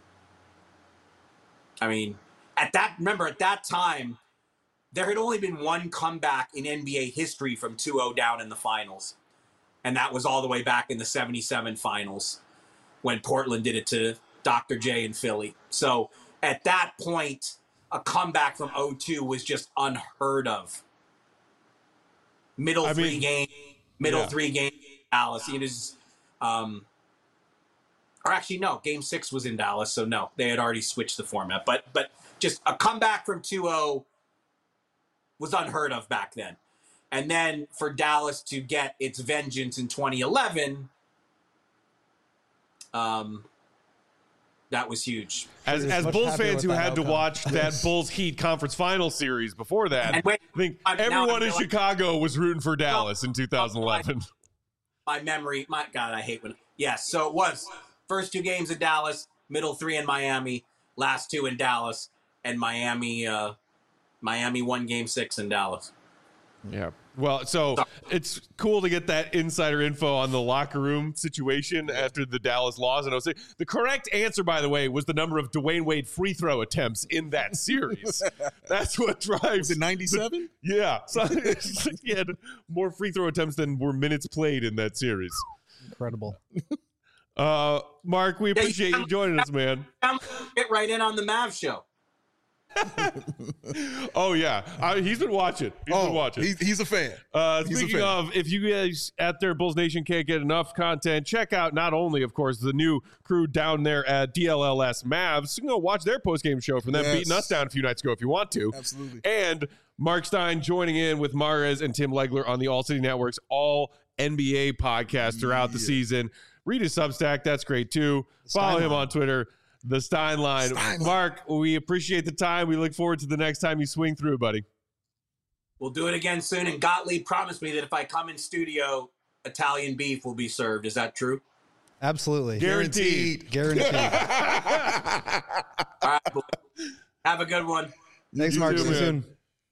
I mean, at that time, there had only been one comeback in NBA history from 2-0 down in the finals. And that was all the way back in the 77 finals when Portland did it to Dr. J in Philly. So at that point, a comeback from 0-2 was just unheard of. Middle 3 game Dallas. It is, or actually no, Game 6 was in Dallas, so no, they had already switched the format. But just a comeback from 2-0 was unheard of back then. And then for Dallas to get its vengeance in 2011, that was huge. As Bulls fans who had to watch that Bulls Heat conference final series before that, I think everyone in Chicago was rooting for Dallas in 2011. My memory, my God, I hate when. Yes, so it was first 2 games in Dallas, middle 3 in Miami, last 2 in Dallas, and Miami won Game 6 in Dallas. Yeah. Well, so it's cool to get that insider info on the locker room situation after the Dallas loss. And I was saying, the correct answer, by the way, was the number of Dwayne Wade free throw attempts in that series. That's what drives it. 97? Yeah. So he had more free throw attempts than were minutes played in that series. Incredible. Mark, we appreciate you joining us, man. Get right in on the Mavs show. Oh yeah, he's been watching. He's a fan. Speaking of, if you guys at their Bulls Nation can't get enough content, check out not only, of course, the new crew down there at DLLS Mavs. You can go watch their post-game show from them beating us down a few nights ago if you want to. Absolutely. And Mark Stein joining in with Mahrez and Tim Legler on the All City Network's All NBA podcast throughout the season. Read his Substack. That's great too. Follow him on Twitter. The Stein Line. Mark, we appreciate the time. We look forward to the next time you swing through, buddy. We'll do it again soon. And Gottlieb promised me that if I come in studio, Italian beef will be served. Is that true? Absolutely. Guaranteed. All right. Have a good one. Thanks, Mark. See you soon.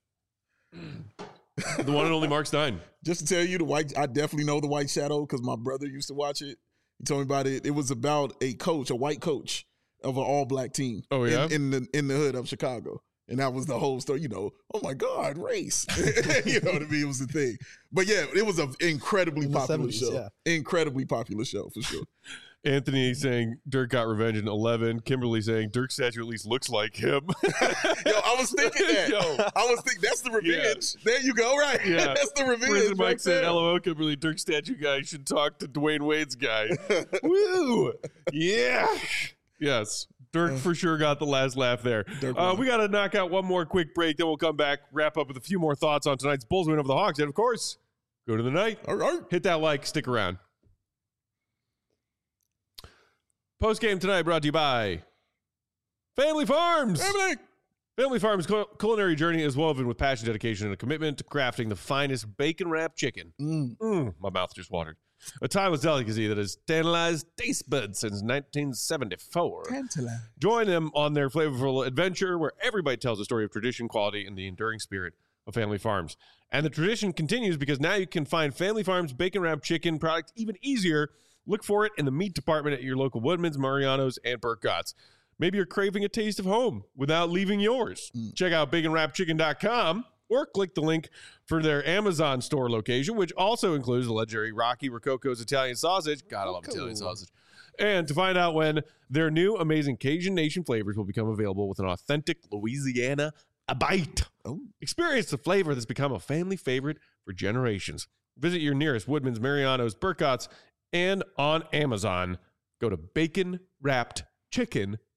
The one and only Mark Stein. Just to tell you, I definitely know the White Shadow because my brother used to watch it. He told me about it. It was about a white coach of an all-black team. Oh yeah, in the hood of Chicago, and that was the whole story. You know, oh my God, race. You know what I mean? It was the thing. But yeah, it was an incredibly popular 70s, show. yeah. Incredibly popular show for sure. Anthony saying Dirk got revenge in 11. Kimberly saying Dirk's statue at least looks like him. Yo, I was thinking that. I was thinking that's the revenge. Yeah. There you go. Right. Yeah. That's the revenge. Prison Mike right said, there. LOL, Kimberly, Dirk statue guy should talk to Dwayne Wade's guy. Woo. Yeah. Yes. Dirk for sure got the last laugh there. We got to knock out one more quick break. Then we'll come back, wrap up with a few more thoughts on tonight's Bulls win over the Hawks. And of course, go to the night. All right. Hit that like. Stick around. Post game tonight brought to you by Family Farms. Family Farms' culinary journey is woven with passion, dedication, and a commitment to crafting the finest bacon-wrapped chicken. My mouth just watered. A timeless delicacy that has tantalized taste buds since 1974. Join them on their flavorful adventure where everybody tells a story of tradition, quality, and the enduring spirit of Family Farms. And the tradition continues because now you can find Family Farms bacon-wrapped chicken product even easier. Look for it in the meat department at your local Woodman's, Mariano's, and Burkott's. Maybe you're craving a taste of home without leaving yours. Check out baconwrappedchicken.com or click the link for their Amazon store location, which also includes the legendary Rocky Rococo's Italian sausage. God, I love Italian sausage. And to find out when their new amazing Cajun Nation flavors will become available with an authentic Louisiana bite. Experience the flavor that's become a family favorite for generations. Visit your nearest Woodman's, Mariano's, Burkott's, and on Amazon. Go to baconwrappedchicken.com.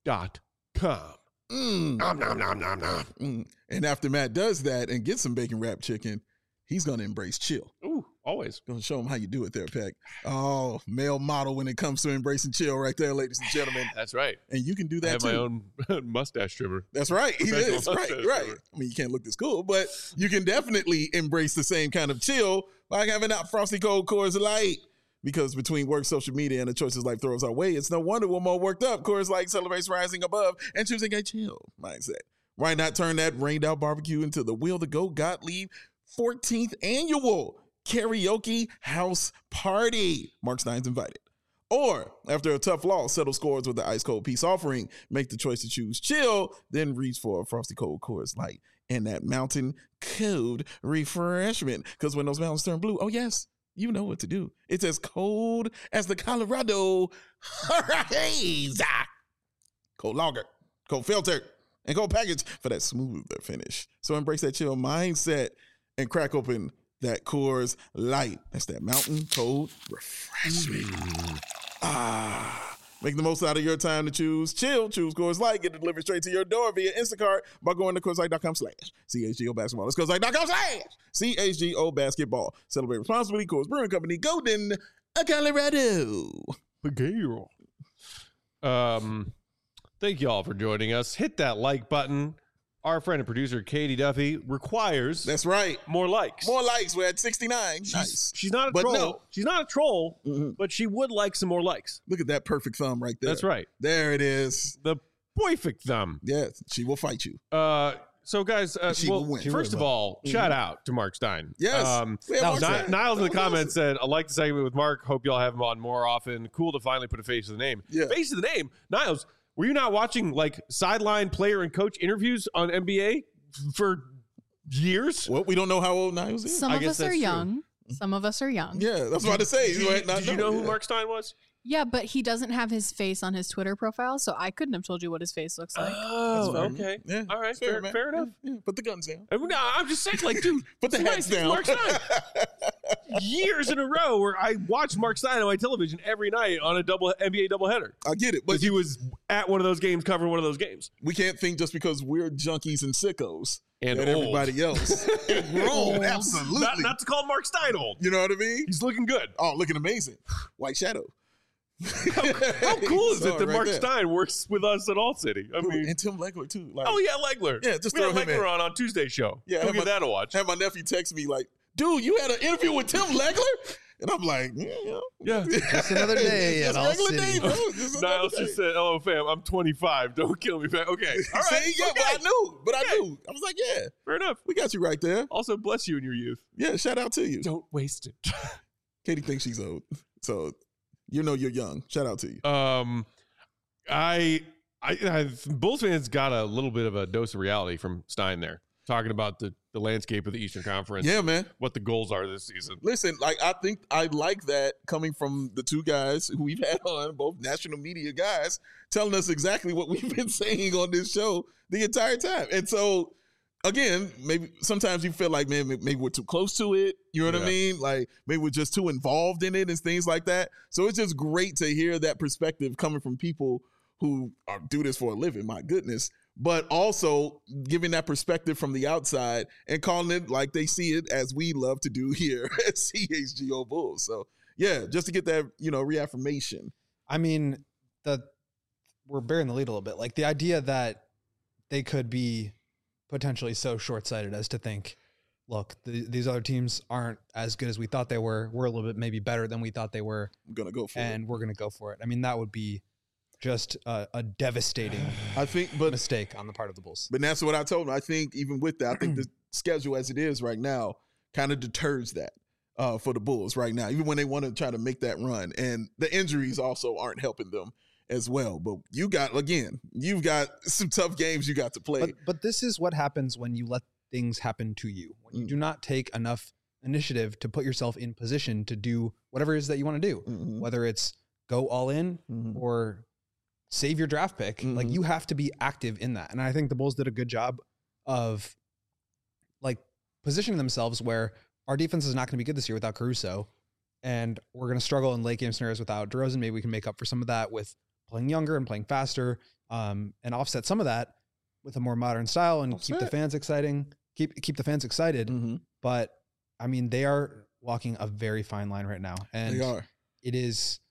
Nom, nom, nom, nom, nom. And after Matt does that and gets some bacon wrapped chicken, he's going to embrace chill. Ooh, always. Going to show him how you do it there, Peck. Oh, male model when it comes to embracing chill right there, ladies and gentlemen. That's right. And you can do that I have too. my own mustache trimmer. That's right. He is. Right. Trimmer. I mean, you can't look this cool, but you can definitely embrace the same kind of chill by having out Frosty Cold Coors Light. Because between work, social media, and the choices life throws our way, it's no wonder we're more worked up. Coors Light celebrates rising above and choosing a chill mindset. Why not turn that rained out barbecue into the Wheel to Go Gottlieb 14th annual karaoke house party? Mark Stein's invited. Or after a tough loss, settle scores with the ice cold peace offering. Make the choice to choose chill, then reach for a Frosty Cold Coors Light and that mountain cold refreshment. Because when those mountains turn blue, oh yes, you know what to do. It's as cold as the Colorado Haze. Cold lager, cold filter, and cold package for that smoother finish. So embrace that chill mindset and crack open that Coors Light. That's that mountain cold refreshment. Make the most out of your time to choose chill. Choose Coors Light. Get it delivered straight to your door via Instacart by going to CoorsLight.com/CHGO Basketball. That's CoorsLight.com/CHGO Basketball. Celebrate responsibly. Coors Brewing Company, Golden, Colorado. Thank you all for joining us. Hit that like button. Our friend and producer, Katie Duffy, requires That's right. more likes. More likes. We're at 69. Nice. She's not a But troll. no. She's not a troll, but she would like some more likes. Look at that perfect thumb right there. That's right. There it is. The perfect thumb. Yes, she will fight you. So, guys, She will win. first of all, shout out to Mark Stein. Yes. Niles in the comments said, I like the segment with Mark. Hope y'all have him on more often. Cool to finally put a face to the name. Yeah. Face to the name. Niles, were you not watching like sideline player and coach interviews on NBA for years? Well, we don't know how old Niles is. Some I of guess us are that's true. young. Some of us are young. Yeah, that's what I say. Did you know who Mark Stein was? Yeah, but he doesn't have his face on his Twitter profile, so I couldn't have told you what his face looks like. Oh, fair. okay. Yeah, All right. fair, Fair enough. Yeah, put the guns down. I mean, no, I'm just saying, like, dude, Put the it's hats nice. down. Mark Stein. Years in a row where I watched Mark Stein on my television every night on a NBA doubleheader. I get it, but Because he was at one of those games, covering one of those games. we can't think just because we're junkies and sickos And that old. everybody else and grown. Absolutely. Not to call Mark Stein old. You know what I mean? He's looking good. Oh, looking amazing. White Shadow. How cool is it that Right Mark there. Stein works with us at All City? I mean, And Tim Legler too. Like, oh yeah, Legler. Yeah, just we had throw him Legler in. on Tuesday's show. Yeah, Go have give my- that a watch. Had my nephew text me like, "Dude, you had an interview with Tim Legler," and I'm like, Yeah. Just another day Just at All regular City. day, bro. Just another Niles day. just said, "Hello, fam. I'm 25. Don't kill me, fam." Okay. All right. See, yeah, okay. but I Okay. knew. I was like, yeah, Fair enough. we got you right there. Also, bless you in your youth. Yeah, shout out to you. Don't waste it. Katie thinks she's old, so you know you're young. Shout out to you. I Bulls fans got a little bit of a dose of reality from Stein there, talking about the landscape of the Eastern Conference. Yeah, man. What the goals are this season. Listen, like I think I like that coming from the two guys who we've had on, both national media guys, telling us exactly what we've been saying on this show the entire time. And so, again, maybe sometimes you feel like, man, maybe we're too close to it. You know what I Yeah. mean? Like maybe we're just too involved in it and things like that. So it's just great to hear that perspective coming from people who do this for a living. My goodness. But also giving that perspective from the outside and calling it like they see it, as we love to do here at CHGO Bulls. So yeah, just to get that, reaffirmation. I mean, we're bearing the lead a little bit. Like the idea that they could be potentially so short-sighted as to think, look, these other teams aren't as good as we thought they were. We're a little bit maybe better than we thought they were. I'm gonna go for And we're going to go for it. I mean, that would be just a devastating it. I think, but mistake on the part of the Bulls. that's what I told him. I think even with that, I think the schedule as it is right now kind of deters that for the Bulls right now, even when they want to try to make that run. And the injuries also aren't helping them as well. But you've got some tough games you got to play. But this is what happens when you let things happen to you. When you do not take enough initiative to put yourself in position to do whatever it is that you want to do, whether it's go all in or save your draft pick. Like you have to be active in that. And I think the Bulls did a good job of like positioning themselves where our defense is not going to be good this year without Caruso. And we're going to struggle in late game scenarios without DeRozan. Maybe we can make up for some of that with playing younger and playing faster, and offset some of that with a more modern style and keep the fans exciting, keep the fans excited. But I mean, they are walking a very fine line right now. And They are. it is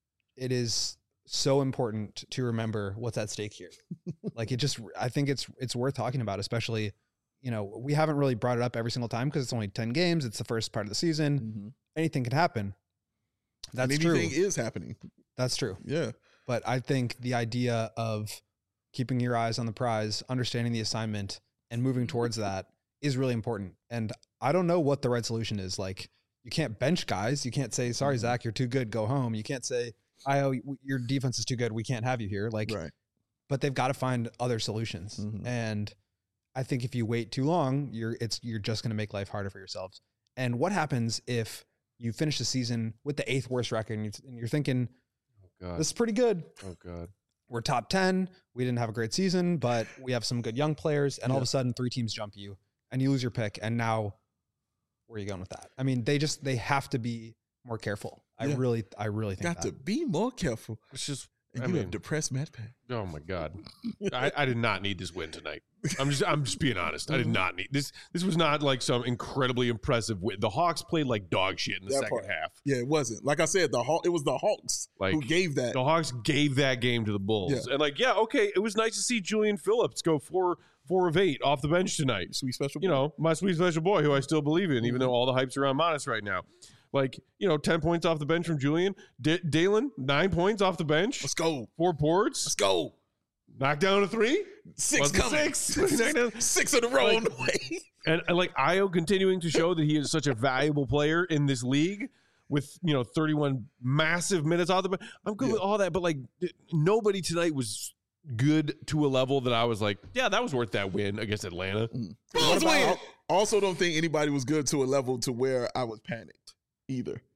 so important to remember what's at stake here. Like I think it's worth talking about, especially, we haven't really brought it up every single time because it's only 10 games. It's the first part of the season. Anything can happen. That's and true. anything is happening. That's true. Yeah. But I think the idea of keeping your eyes on the prize, understanding the assignment, and moving towards that is really important. And I don't know what the right solution is. Like, you can't bench guys. You can't say, sorry, Zach, you're too good, go home. You can't say, your defense is too good, we can't have you here. Like, Right. but they've got to find other solutions. And I think if you wait too long, you're just going to make life harder for yourselves. And what happens if you finish the season with the 8th worst record and you're thinking, God. this is pretty good. Oh God. We're top 10. We didn't have a great season, but we have some good young players. And all of a sudden 3 teams jump you and you lose your pick. And now where are you going with that? I mean, they have to be more careful. I really think Got that. to be more careful. It's just, And I you mean, have depressed Matt Pat. oh my God. I did not need this win tonight. I'm just being honest. I did not need this. This was not like some incredibly impressive win. The Hawks played like dog shit in the That second part. half. Yeah, it wasn't. Like I said, it was the Hawks Like, who gave that. The Hawks gave that game to the Bulls. Yeah. And like, yeah, okay, it was nice to see Julian Phillips go 4 of 8 off the bench tonight. Sweet special. My sweet special boy who I still believe in, even though all the hype's around Modest right now. Like, 10 points off the bench from Julian. Dalen, 9 points off the bench. Let's go. 4 boards. Let's go. Knock down a 3. 6 Wasn't coming. 6. Knock down- 6 in a row on the way. And like Ayo continuing to show that he is such a valuable player in this league with 31 massive minutes off the bench. I'm good with all that, but like nobody tonight was good to a level that I was like, yeah, that was worth that win against Atlanta. I also don't think anybody was good to a level to where I was panicked either.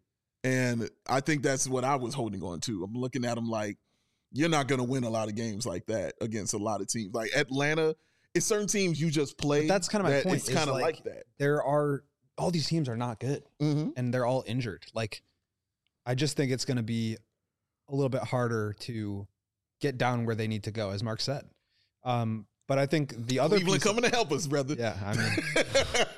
And I think that's what I was holding on to. I'm looking at him like, you're not going to win a lot of games like that against a lot of teams. Like Atlanta, it's certain teams you just play. But that's kind of my point. It's kind of like that. There are all these teams are not good, and they're all injured. Like, I just think it's going to be a little bit harder to get down where they need to go, as Mark said. But I think the other Cleveland coming to help us, brother. Yeah, I mean,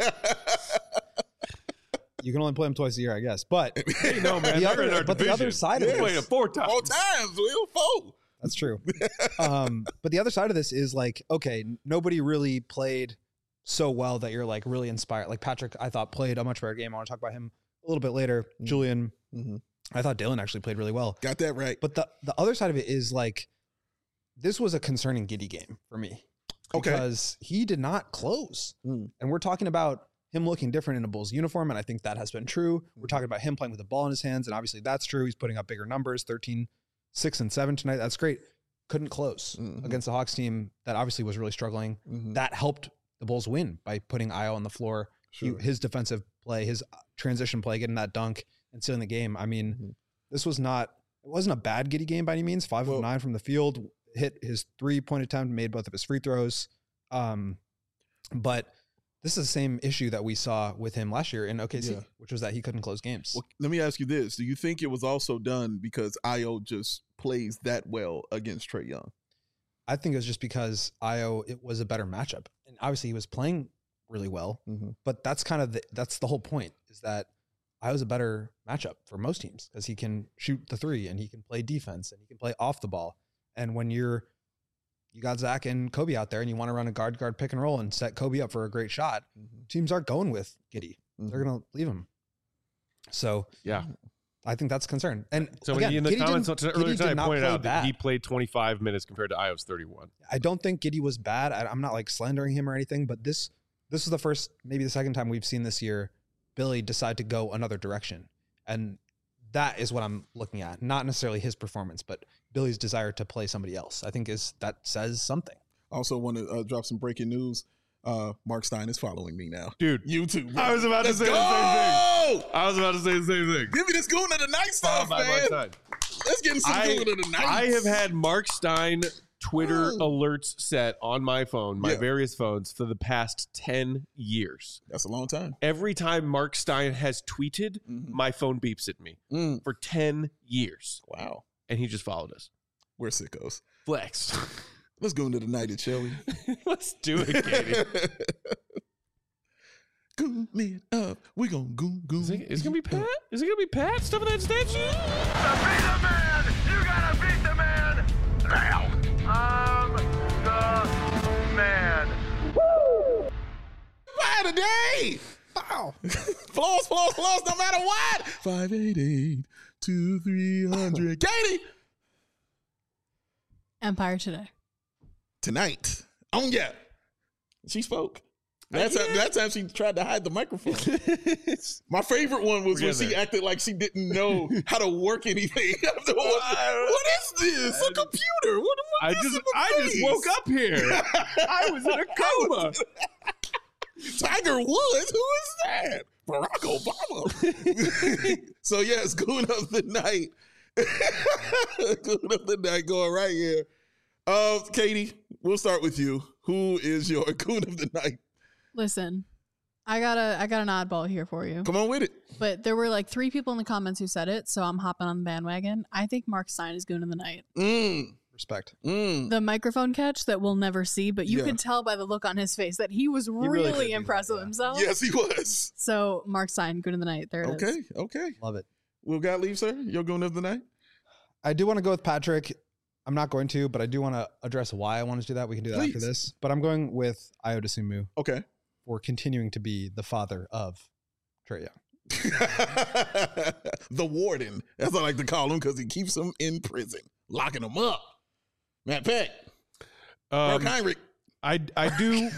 you can only play them twice a year, I guess. But Hey, no, man. the other side of We this, played it 4 times. 4 times, Will. 4. that's true. But the other side of this is like, okay, nobody really played so well that you're like really inspired. Like Patrick, I thought played a much better game. I want to talk about him a little bit later. Julian, I thought Dylan actually played really well. Got that right. But the other side of it is like, this was a concerning Giddey game for me. Okay. Because he did not close. And we're talking about him looking different in a Bulls uniform, and I think that has been true. We're talking about him playing with the ball in his hands, and obviously that's true. He's putting up bigger numbers, 13, 6, and 7 tonight. That's great. Couldn't close against the Hawks team that obviously was really struggling. That helped the Bulls win by putting Ayo on the floor. Sure. His defensive play, his transition play, getting that dunk and sealing the game. I mean, this was not, it wasn't a bad Giddey game by any means. 5 of 9 from the field, hit his 3-point attempt, made both of his free throws. But this is the same issue that we saw with him last year in OKC, which was that he couldn't close games. Well, let me ask you this. Do you think it was also done because Ayo just plays that well against Trae Young? I think it was just because Ayo, it was a better matchup. And obviously he was playing really well, but that's kind of that's the whole point, is that Ayo's a better matchup for most teams because he can shoot the 3 and he can play defense and he can play off the ball. And when you got Zach and Kobe out there and you want to run a guard pick and roll and set Kobe up for a great shot, teams aren't going with Giddey. They're going to leave him. So Yeah. I think that's a concern. And So again, in the Giddey comments earlier did tonight, I not pointed play out that bad. he played 25 minutes compared to Ayo's 31. I don't think Giddey was bad. I'm not like slandering him or anything, but this is the first, maybe the second time we've seen this year Billy decide to go another direction. And that is what I'm looking at. Not necessarily his performance, but Billy's desire to play somebody else. I think that says something. Also want to drop some breaking news. Mark Stein is following me now. Dude. YouTube. Bro. I was about to say the same thing. I was about to say the same thing. Give me this Goon of the Night stuff, By Mark man. Stein. Let's get some Goon of the Night. I have had Mark Stein Twitter alerts set on my phone, my various phones, for the past 10 years. That's a long time. Every time Mark Stein has tweeted, my phone beeps at me for 10 years. Wow. And he just followed us. We're sickos. Flex. Let's go into the night, shall we? Let's do it, Katie. Goon it up. We gonna goon. Is it gonna be Pat? Is it gonna be Pat stuffing that statue? Be the man! You gotta beat the man! Now! I'm the man. Woo! Fire today! Wow. Floss, no matter what. 588 2300. Katie! Empire Today. Tonight. Oh, yeah. She spoke. That time she tried to hide the microphone. My favorite one was when she acted like she didn't know how to work anything. What is this? A computer? What I just woke up here. I was in a coma. Tiger Woods? Who is that? Barack Obama. So yes, Goon of the Night. Goon of the Night going right here. Katie, we'll start with you. Who is your Goon of the Night? Listen, I got an oddball here for you. Come on with it. But there were like 3 people in the comments who said it, so I'm hopping on the bandwagon. I think Mark Stein is Goon of the Night. Respect. The microphone catch that we'll never see, but you could tell by the look on his face that he was really impressed with himself. Yes, he was. So Mark Stein, Goon of the Night. There it is. Okay. Love it. Will Gottlieb, sir, your Goon of the Night? I do want to go with Patrick. I'm not going to, but I do want to address why I want to do that. We can do that after this. But I'm going with Ayo Dosunmu. Okay. For continuing to be the father of Trae Young. The warden. That's what I like to call him because he keeps him in prison, locking him up. Matt Peck. Mark Heinrich. I do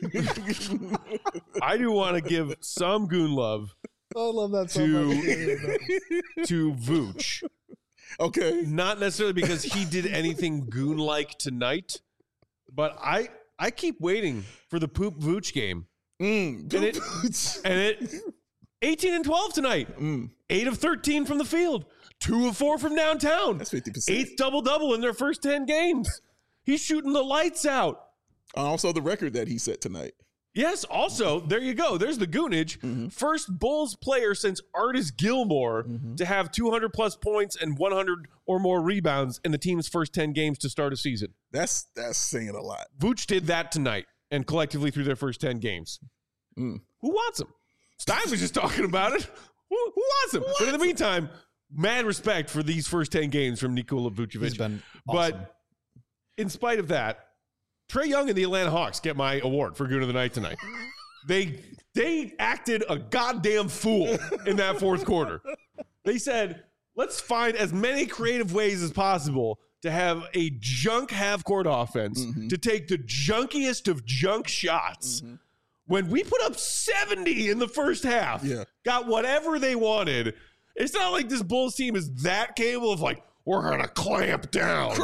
want to give some Goon love I love that so much. to Vooch. Okay. Not necessarily because he did anything Goon-like tonight, but I keep waiting for the Poop Vooch game. And it 18 and 12 tonight. 8 of 13 from the field. 2 of 4 from downtown. That's 50%. 8th double-double in their first 10 games. He's shooting the lights out. Also, the record that he set tonight. Yes, also, there you go. There's the goonage. First Bulls player since Artis Gilmore to have 200-plus points and 100 or more rebounds in the team's first 10 games to start a season. That's saying a lot. Vooch did that tonight and collectively through their first 10 games. Who wants him? Stein was just talking about it. Who wants him? But in the meantime, mad respect for these first 10 games from Nikola Vucevic. He's been awesome. But in spite of that, Trae Young and the Atlanta Hawks get my award for Goon of the Night tonight. They acted a goddamn fool in that fourth quarter. They said, let's find as many creative ways as possible to have a junk half-court offense, to take the junkiest of junk shots. When we put up 70 in the first half, got whatever they wanted, it's not like this Bulls team is that capable of like, we're going to clamp down.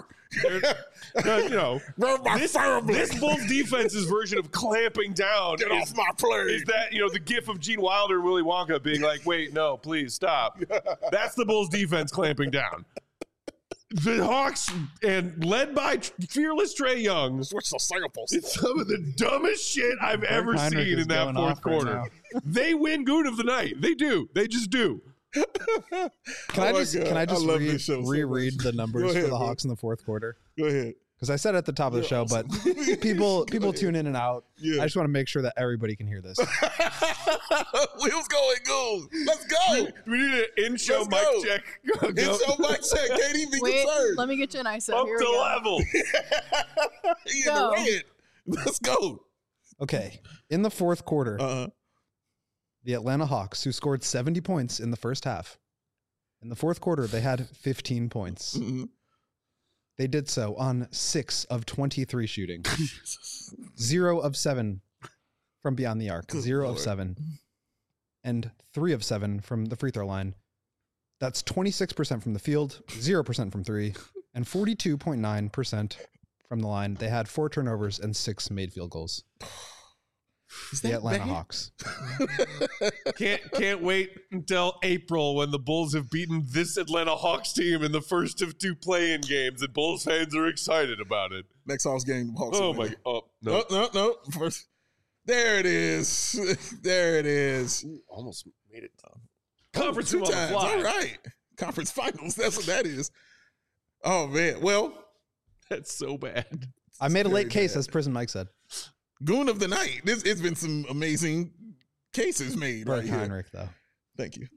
This Bulls defense's version of clamping down off my plate. Is that, the gif of Gene Wilder and Willy Wonka being like, wait, no, please stop. That's the Bulls defense clamping down. The Hawks, and led by fearless Trae Young, Switch the samples. it's some of the dumbest shit I've ever Heinrich seen is in that going fourth off right quarter. They win Goon of the Night. They do. They just do. Can I just love this show so reread much. the numbers Go ahead, for the bro. Hawks in the fourth quarter? Go ahead. Because I said at the top of the show, but people tune in and out. Yeah. I just want to make sure that everybody can hear this. Wheels going, Goon. Let's go. We need an in-show Let's mic go. check. It's on mic check. Can't even be Wait, concerned. let me get you an ISO. Up Here we to go. level. He in Go. the red. Let's go. Okay. In the fourth quarter, the Atlanta Hawks, who scored 70 points in the first half, in the fourth quarter, they had 15 points. They did so on 6 of 23 shooting. 0 of 7 from beyond the arc. Good 0 Lord. of 7. And 3 of 7 from the free throw line. That's 26% from the field, 0% from 3, and 42.9% from the line. They had 4 turnovers and 6 made field goals. Is The that Atlanta bad? Hawks. Can't wait until April when the Bulls have beaten this Atlanta Hawks team in the first of 2 play-in games, and Bulls fans are excited about it. Next Hawks game. Hawks Oh win. my! Oh no! No. First, there it is. There it is. Almost made it. Conference 2 room on the times. fly. All right. Conference finals. That's what that is. Oh man. Well, That's so bad. I made a very late case, bad. as Prison Mike said. Goon of the night. It's been some amazing cases made Bert right here. Heinrich, though. Thank you.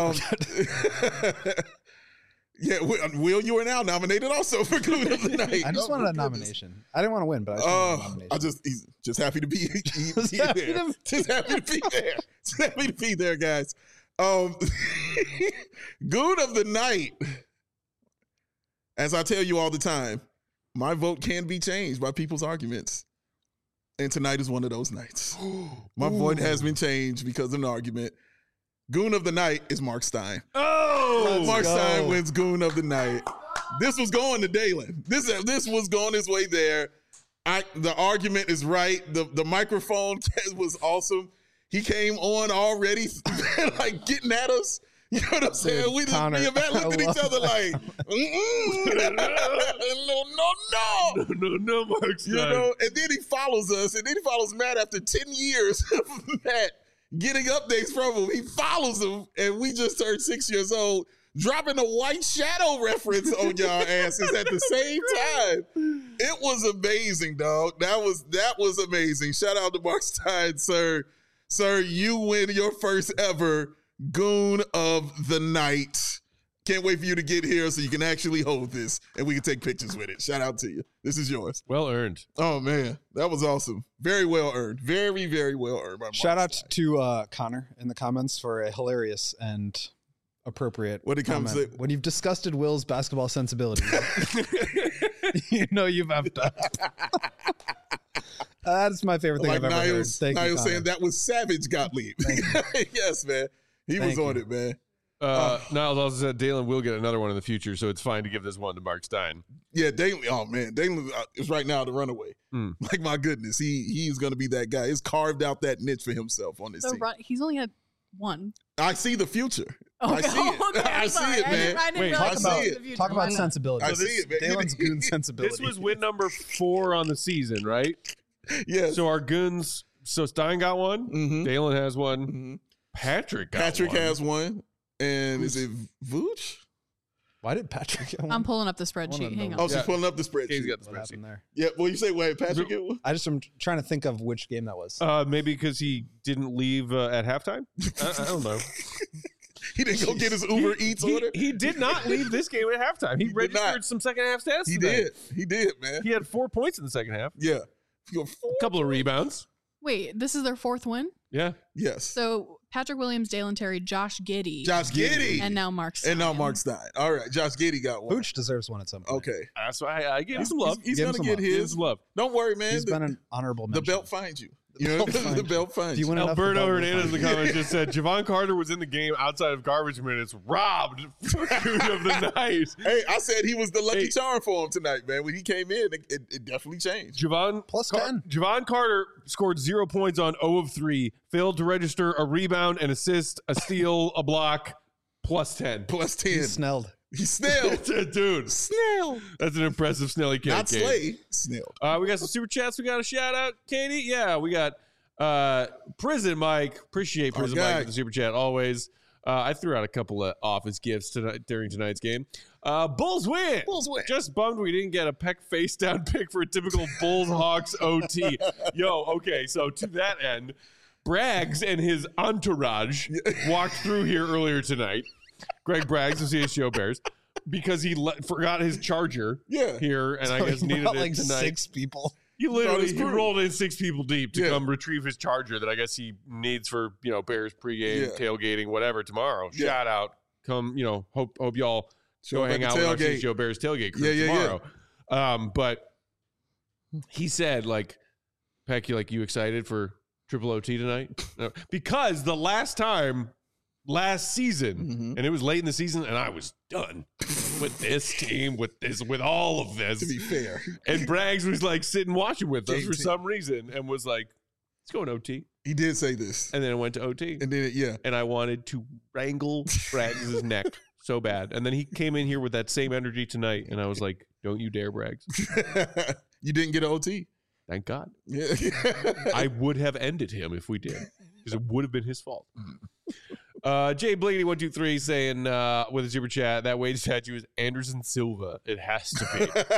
Yeah, Will, you are now nominated also for Goon of the Night. I just Oh, wanted my a goodness. nomination. I didn't want to win, but I just wanted a nomination. He's just happy to be Just there. happy to- Just happy to be there. Just happy to be there, guys. Goon of the night. As I tell you all the time, my vote can be changed by people's arguments. And tonight is one of those nights. My vote has been changed because of an argument. Goon of the night is Mark Stein. Oh, Mark go. Stein wins Goon of the night. This was going to Dalen. This was going his way there. The argument is right. The microphone was awesome. He came on already like getting at us. You know what I'm saying? Dude, We just Connor, me and Matt looked at I each love other like, no. no, Mark Stein. You know, and then he follows us, and then he follows Matt after 10 years of Matt getting updates from him. He follows him, and we just turned 6 years old, dropping a White Shadow reference on y'all asses at the same time. It was amazing, dog. That was amazing. Shout out to Mark Stein, sir. Sir, you win your first ever Goon of the Night. Can't wait for you to get here so you can actually hold this and we can take pictures with it. Shout out to you. This is yours. Well earned. Oh, man. That was awesome. Very well earned. Very, very well earned. By Mark Shout out Stein. to Connor in the comments for a hilarious and appropriate What it comes comment. to- When you've disgusted Will's basketball sensibilities, you know you've effed up. That's my favorite thing Like I've ever heard. Niles Thank you, saying Connor. that was Savage Gottlieb. Yes, man. He was Thank on you. it, man. Niles also said Dalen will get another one in the future, so it's fine to give this one to Mark Stein. Yeah, Dalen. Oh man, Dalen is right now the runaway. Like my goodness, he's going to be that guy. He's carved out that niche for himself on this team. He's only had 1. I see the future. Okay. I see it. Okay, I see it, man. I didn't Wait, realize talk it about- was the future. Talk about sensibility. I see it, man. Dalen's goon sensibility. This was win number 4 on the season, right? Yes. So our goons. So Stein got one. Mhm. Dalen has one. Mhm. Patrick got Patrick one. has one. And is it Vooch? Why did Patrick get one? I'm pulling up the Wanna spreadsheet. Hang know. Oh, on. she's Yeah. pulling up the He's spreadsheet. got the What spreadsheet. happened there? Yeah, well, you say, wait, Patrick get one? I'm trying to think of which game that was. Maybe because he didn't leave at halftime. I don't know. He didn't go get his Uber Eats order? He did not leave this game at halftime. He did registered not. some second half stats. He tonight. did. He did, man. He had 4 points in the second half. Yeah. A couple of rebounds. Wait, this is their 4th win? Yeah. Yes. So Patrick Williams, Dalen Terry, Josh Giddey, Josh Giddey. and now Mark Stein. And now Mark Stein. All right. Josh Giddey got one. Pooch deserves one at some point. Okay. That's why I give him some love. He's Give him going to some get love. Give him his. some love. Don't worry, man. He's been an honorable The mention. belt finds you. You know, belt finds the you. belt finds If you you. win enough, the Alberto belt will Hernandez in find the you. comments just said Javon Carter was in the game outside of garbage minutes, robbed for Goon of the night. Hey, I said he was the lucky Hey. charm for him tonight, man. When he came in, it definitely changed. Javon Plus 10. Javon Carter scored 0 points on 0 of 3, failed to register a rebound, an assist, a steal, a block, plus 10. Plus 10. He snelled. He snailed. Dude, Snail. that's an impressive Snelly Cake Not game. Slay. Snail. We got some super chats. We got a shout out, Katie. Yeah, we got Prison Mike. Appreciate Our Prison guy. Mike with the super chat always. I threw out a couple of office gifts tonight during tonight's game. Bulls win. Bulls win. Just bummed we didn't get a peck face down pick for a typical Bulls Hawks OT. Yo, okay, so to that end, Braggs and his entourage walked through here earlier tonight. Greg Braggs of CHGO Bears, because he forgot his charger Yeah. here, and I So guess he needed brought it like tonight. 6 people. He literally his he crew. rolled in 6 people deep to Yeah. come retrieve his charger that I guess he needs for Bears pregame, Yeah. tailgating, whatever tomorrow. Yeah. Shout out, come hope y'all Show go up hang at out the with our tailgate. CHGO Bears tailgate crew Yeah, yeah, tomorrow. But he said Peck, you excited for triple OT tonight? No, because the last season, Mhm. and it was late in the season, and I was done with this team, with all of this. To be fair. And Braggs was sitting watching with us for JT. some reason and was like, let's go in OT. He did say this. And then it went to OT. And then, yeah. And I wanted to wrangle Braggs' neck so bad. And then he came in here with that same energy tonight. And I was like, don't you dare, Braggs. You didn't get an OT. Thank God. Yeah. I would have ended him if we did, because it would have been his fault. Jay Bliggity123 saying with a super chat, that Wade statue is Anderson Silva. It has to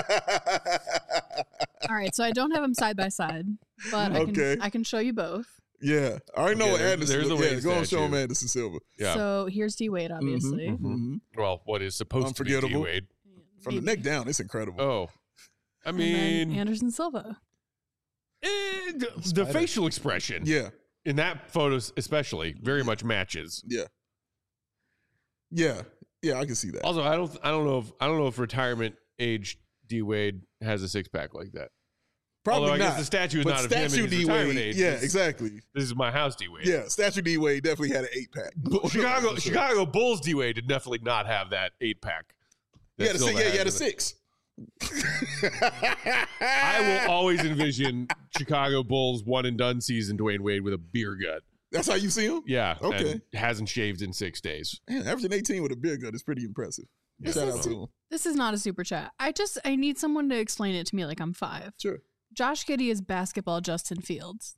be. All right, so I don't have them side by side, but Okay. I can show you both. Yeah. I already know Okay, what there's- Anderson there's the look- Wade yeah, go and show him statue. Anderson Silva. Yeah. So here's D Wade, obviously. Mhm. Mhm. Well, what is supposed to be Unforgettable. D-Wade. From the neck down, it's incredible. Oh. I And then mean, Anderson Silva. the Spider. facial expression Yeah. in that photo especially very much matches. Yeah. Yeah. Yeah, I can see that. Also, I don't know if retirement age D Wade has a 6-pack like that. Probably Although I not. guess the statue is But not of him in statue his D retirement Wade. age. Yeah, This- exactly. This is my house D Wade. Yeah, statue D Wade definitely had an 8-pack. Chicago Bulls D Wade did definitely not have that 8-pack. You had a 6. Yeah, you had a 6. I will always envision Chicago Bulls one and done season Dwayne Wade with a beer gut. That's how you see him? Yeah. Okay. And hasn't shaved in 6 days. Man, averaging 18 with a beer gut is pretty impressive. Yeah. Shout out to him. This is not a super chat. I need someone to explain it to me like I'm 5. Sure. Josh Giddey is basketball Justin Fields.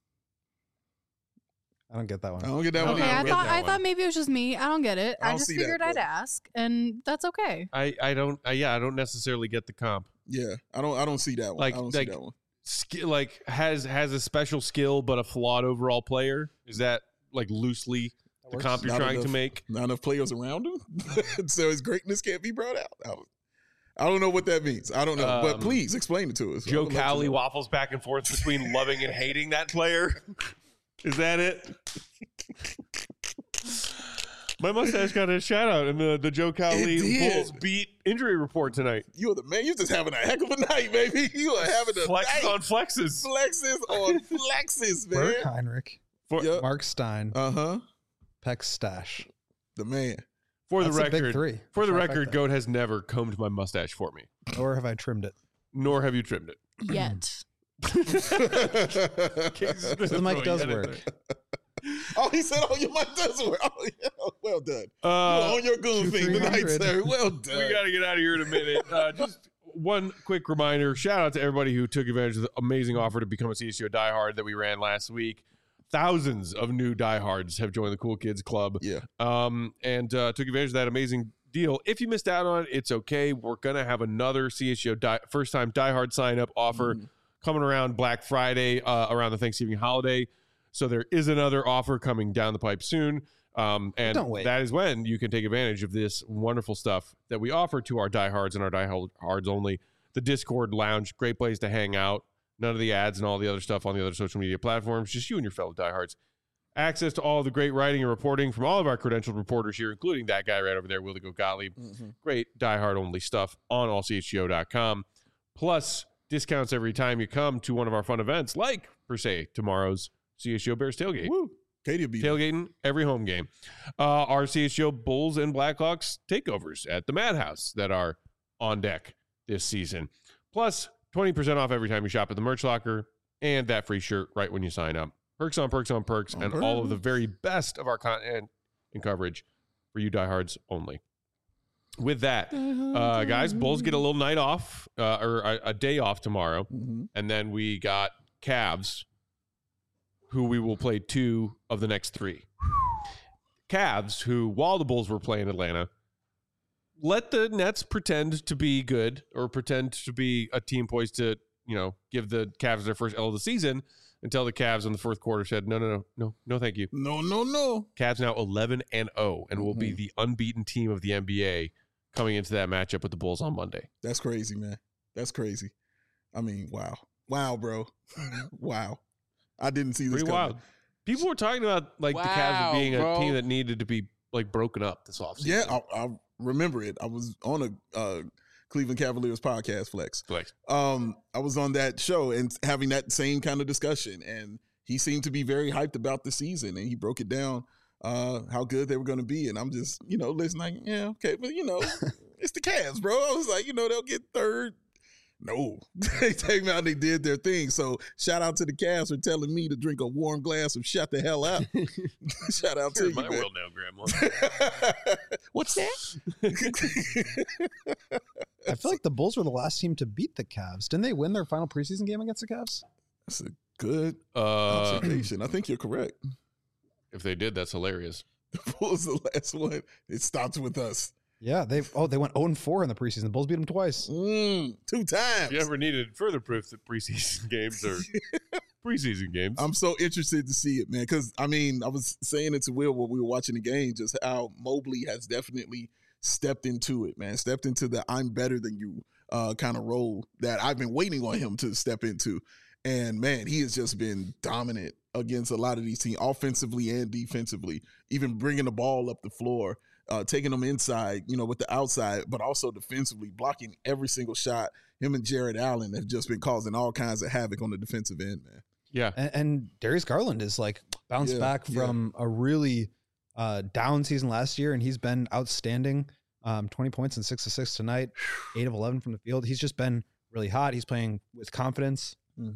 I don't get that one. I don't get that No, one. Okay, I I don't get thought that I one. thought maybe it was just me. I don't get it. I I don't just see that, figured I'd but- ask, and that's okay. I don't necessarily get the comp. Yeah, I don't see that one. Like- I don't see like- that one. Has a special skill but a flawed overall player. Is that loosely the works. comp you're Not trying to enough. make? Not enough players around him, so his greatness can't be brought out. I don't know what that means. I don't know, but please explain it to us. I Joe would love to Cowley know. waffles back and forth between loving and hating that player. Is that it? My mustache got a shout out in the Joe Cowley It did. Bulls beat injury report tonight. You're the man. You're just having a heck of a night, baby. You are having a Flexes night. on flexes. Flexes on flexes, Bert man. Heinrich, For, Yep. Mark Stein, Uh-huh. Peck Stash. The man. for the That's a big record, 3. for the Trifecta. record, Goat has never combed my mustache for me, Or have I trimmed it? nor have you trimmed it. Yet. So the mic does work. Oh, he said, "Oh, your mic does work." Oh, yeah. Well done. You were on your goon thing tonight, sir. Well done. We got to get out of here in a minute. Just one quick reminder. Shout out to everybody who took advantage of the amazing offer to become a CSGO diehard that we ran last week. Thousands of new diehards have joined the Cool Kids Club. Yeah. And took advantage of that amazing deal. If you missed out on it, it's okay. We're going to have another CSGO first-time diehard sign-up offer coming around Black Friday, around the Thanksgiving holiday. So there is another offer coming down the pipe soon. And that is when you can take advantage of this wonderful stuff that we offer to our diehards and our diehards only. The Discord lounge, great place to hang out. None of the ads and all the other stuff on the other social media platforms. Just you and your fellow diehards. Access to all the great writing and reporting from all of our credentialed reporters here, including that guy right over there, Willie Gottlieb. Great diehard-only stuff on allchgo.com. Plus, discounts every time you come to one of our fun events, like, per se, tomorrow's CSGO Bears Tailgate. Woo. Katie will be tailgating every home game. Our CSGO Bulls and Blackhawks takeovers at the Madhouse that are on deck this season. Plus, 20% off every time you shop at the merch locker and that free shirt right when you sign up. Perks on perks on perks and all of the very best of our content and coverage for you diehards only. With that, guys, Bulls get a little night off or a day off tomorrow. And then we got Cavs, who we will play 2 of the next 3. Cavs, who, while the Bulls were playing Atlanta, let the Nets pretend to be good or pretend to be a team poised to, give the Cavs their first L of the season until the Cavs in the fourth quarter said, no, thank you. No. Cavs now 11-0 and will be the unbeaten team of the NBA coming into that matchup with the Bulls on Monday. That's crazy, man. That's crazy. I mean, wow. Wow, bro. Wow. I didn't see this Pretty coming. wild. People were talking about the Cavs being a team that needed to be broken up this offseason. Yeah, I remember it. I was on a Cleveland Cavaliers podcast, Flex. I was on that show and having that same kind of discussion, and he seemed to be very hyped about the season, and he broke it down how good they were going to be, and I'm just listening. Yeah, okay, but it's the Cavs, bro. I was like, they'll get third. No, they came out and they did their thing. So shout out to the Cavs for telling me to drink a warm glass of shut the hell up. Shout out to you, my man. world now, Grandma. What's that? I feel like the Bulls were the last team to beat the Cavs. Didn't they win their final preseason game against the Cavs? That's a good observation. I think you're correct. If they did, that's hilarious. The Bulls the last one. It stopped with us. Yeah, they went 0-4 in the preseason. The Bulls beat them twice. 2 times. If you ever needed further proof that preseason games are preseason games. I'm so interested to see it, man, because, I was saying it to Will when we were watching the game, just how Mobley has definitely stepped into it, man, stepped into the I'm better than you kind of role that I've been waiting on him to step into. And, man, he has just been dominant against a lot of these teams, offensively and defensively, even bringing the ball up the floor. Taking them inside, with the outside, but also defensively, blocking every single shot. Him and Jared Allen have just been causing all kinds of havoc on the defensive end, man. Yeah. And Darius Garland is bounced back from a really down season last year, and he's been outstanding. 20 points and 6 assists tonight, 8 of 11 from the field. He's just been really hot. He's playing with confidence.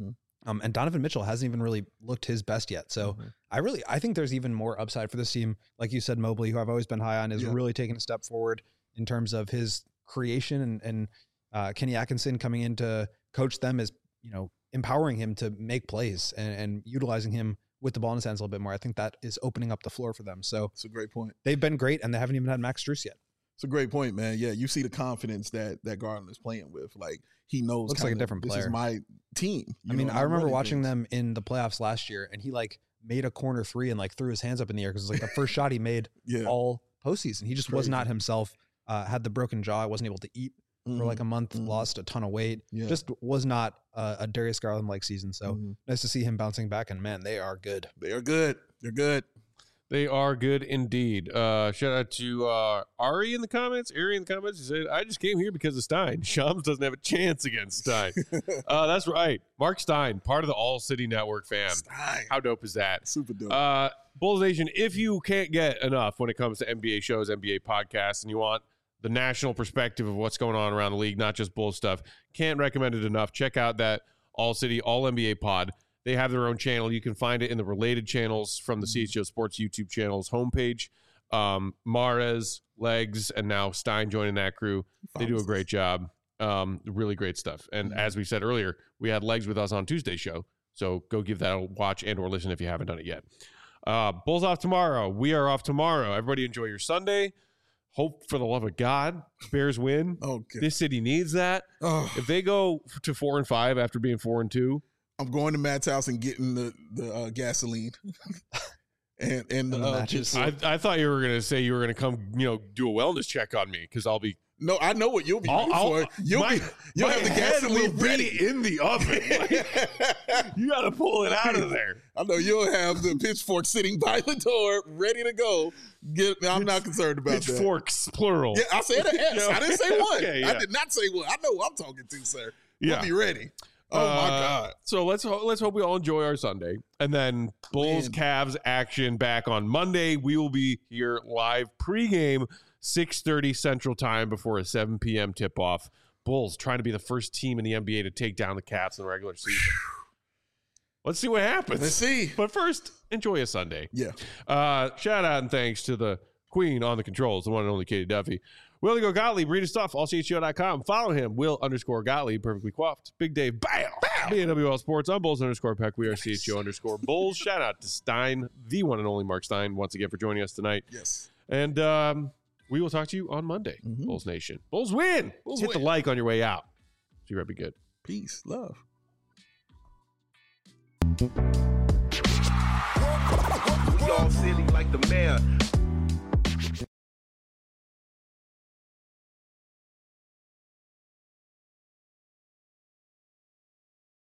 And Donovan Mitchell hasn't even really looked his best yet. So I think there's even more upside for this team. Like you said, Mobley, who I've always been high on, is really taking a step forward in terms of his creation, and Kenny Atkinson coming in to coach them is, empowering him to make plays and utilizing him with the ball in his hands a little bit more. I think that is opening up the floor for them. So it's a great point. They've been great, and they haven't even had Max Strus yet. It's a great point, man. Yeah, you see the confidence that Garland is playing with. Like, he knows. Looks like a different player. This is my team. I remember watching them in the playoffs last year, and he made a corner 3 and threw his hands up in the air because it was the first shot he made all postseason. He just was not himself. Had the broken jaw. Wasn't able to eat for a month. Lost a ton of weight. Yeah. Just was not a Darius Garland-like season. So nice to see him bouncing back. And man, they are good. They are good. They're good. They are good indeed. Shout out to Ari in the comments. He said, I just came here because of Stein. Shams doesn't have a chance against Stein. That's right. Mark Stein, part of the All City Network fam. Stein. How dope is that? Super dope. Bulls Nation, if you can't get enough when it comes to NBA shows, NBA podcasts, and you want the national perspective of what's going on around the league, not just Bulls stuff, can't recommend it enough. Check out that All City, All NBA pod. They have their own channel. You can find it in the related channels from the CHGO Sports YouTube channel's homepage. Mahrez, Legs, and now Stein joining that crew. They do a great job. Really great stuff. And as we said earlier, we had Legs with us on Tuesday's show. So go give that a watch and or listen if you haven't done it yet. Bulls off tomorrow. We are off tomorrow. Everybody enjoy your Sunday. Hope for the love of God, Bears win. Okay. This city needs that. If they go to 4-5 after being 4-2, I'm going to Matt's house and getting the gasoline and the matches. I thought you were going to say you were going to come, do a wellness check on me because I'll be. No, I know what you'll be for. You'll have the gasoline ready in the oven. You got to pull it out of there. I know you'll have the pitchfork sitting by the door, ready to go. I'm not concerned about that. Pitchforks, plural. Yeah, I said an S. I didn't say one. Okay, yeah. I did not say one. I know who I'm talking to, sir. Yeah. We'll be ready. Oh my God! So let's hope we all enjoy our Sunday, and then Bulls Cavs action back on Monday. We will be here live pregame 6:30 Central Time before a 7 p.m. tip off. Bulls trying to be the first team in the NBA to take down the Cavs in the regular season. Let's see what happens. Let's see. But first, enjoy a Sunday. Yeah. Shout out and thanks to the queen on the controls, the one and only Katie Duffy. Will Go Gottlieb, read his stuff, allchgo.com. Follow him, Will_Gottlieb, perfectly coiffed. Big Dave, bam! BNWL Sports on Bulls_Peck. We are CHGO_Bulls. Shout out to Stein, the one and only Mark Stein, once again for joining us tonight. Yes. And we will talk to you on Monday, Bulls Nation. Bulls win! Hit the like on your way out. See you right, be good. Peace, love. We all silly like the mayor.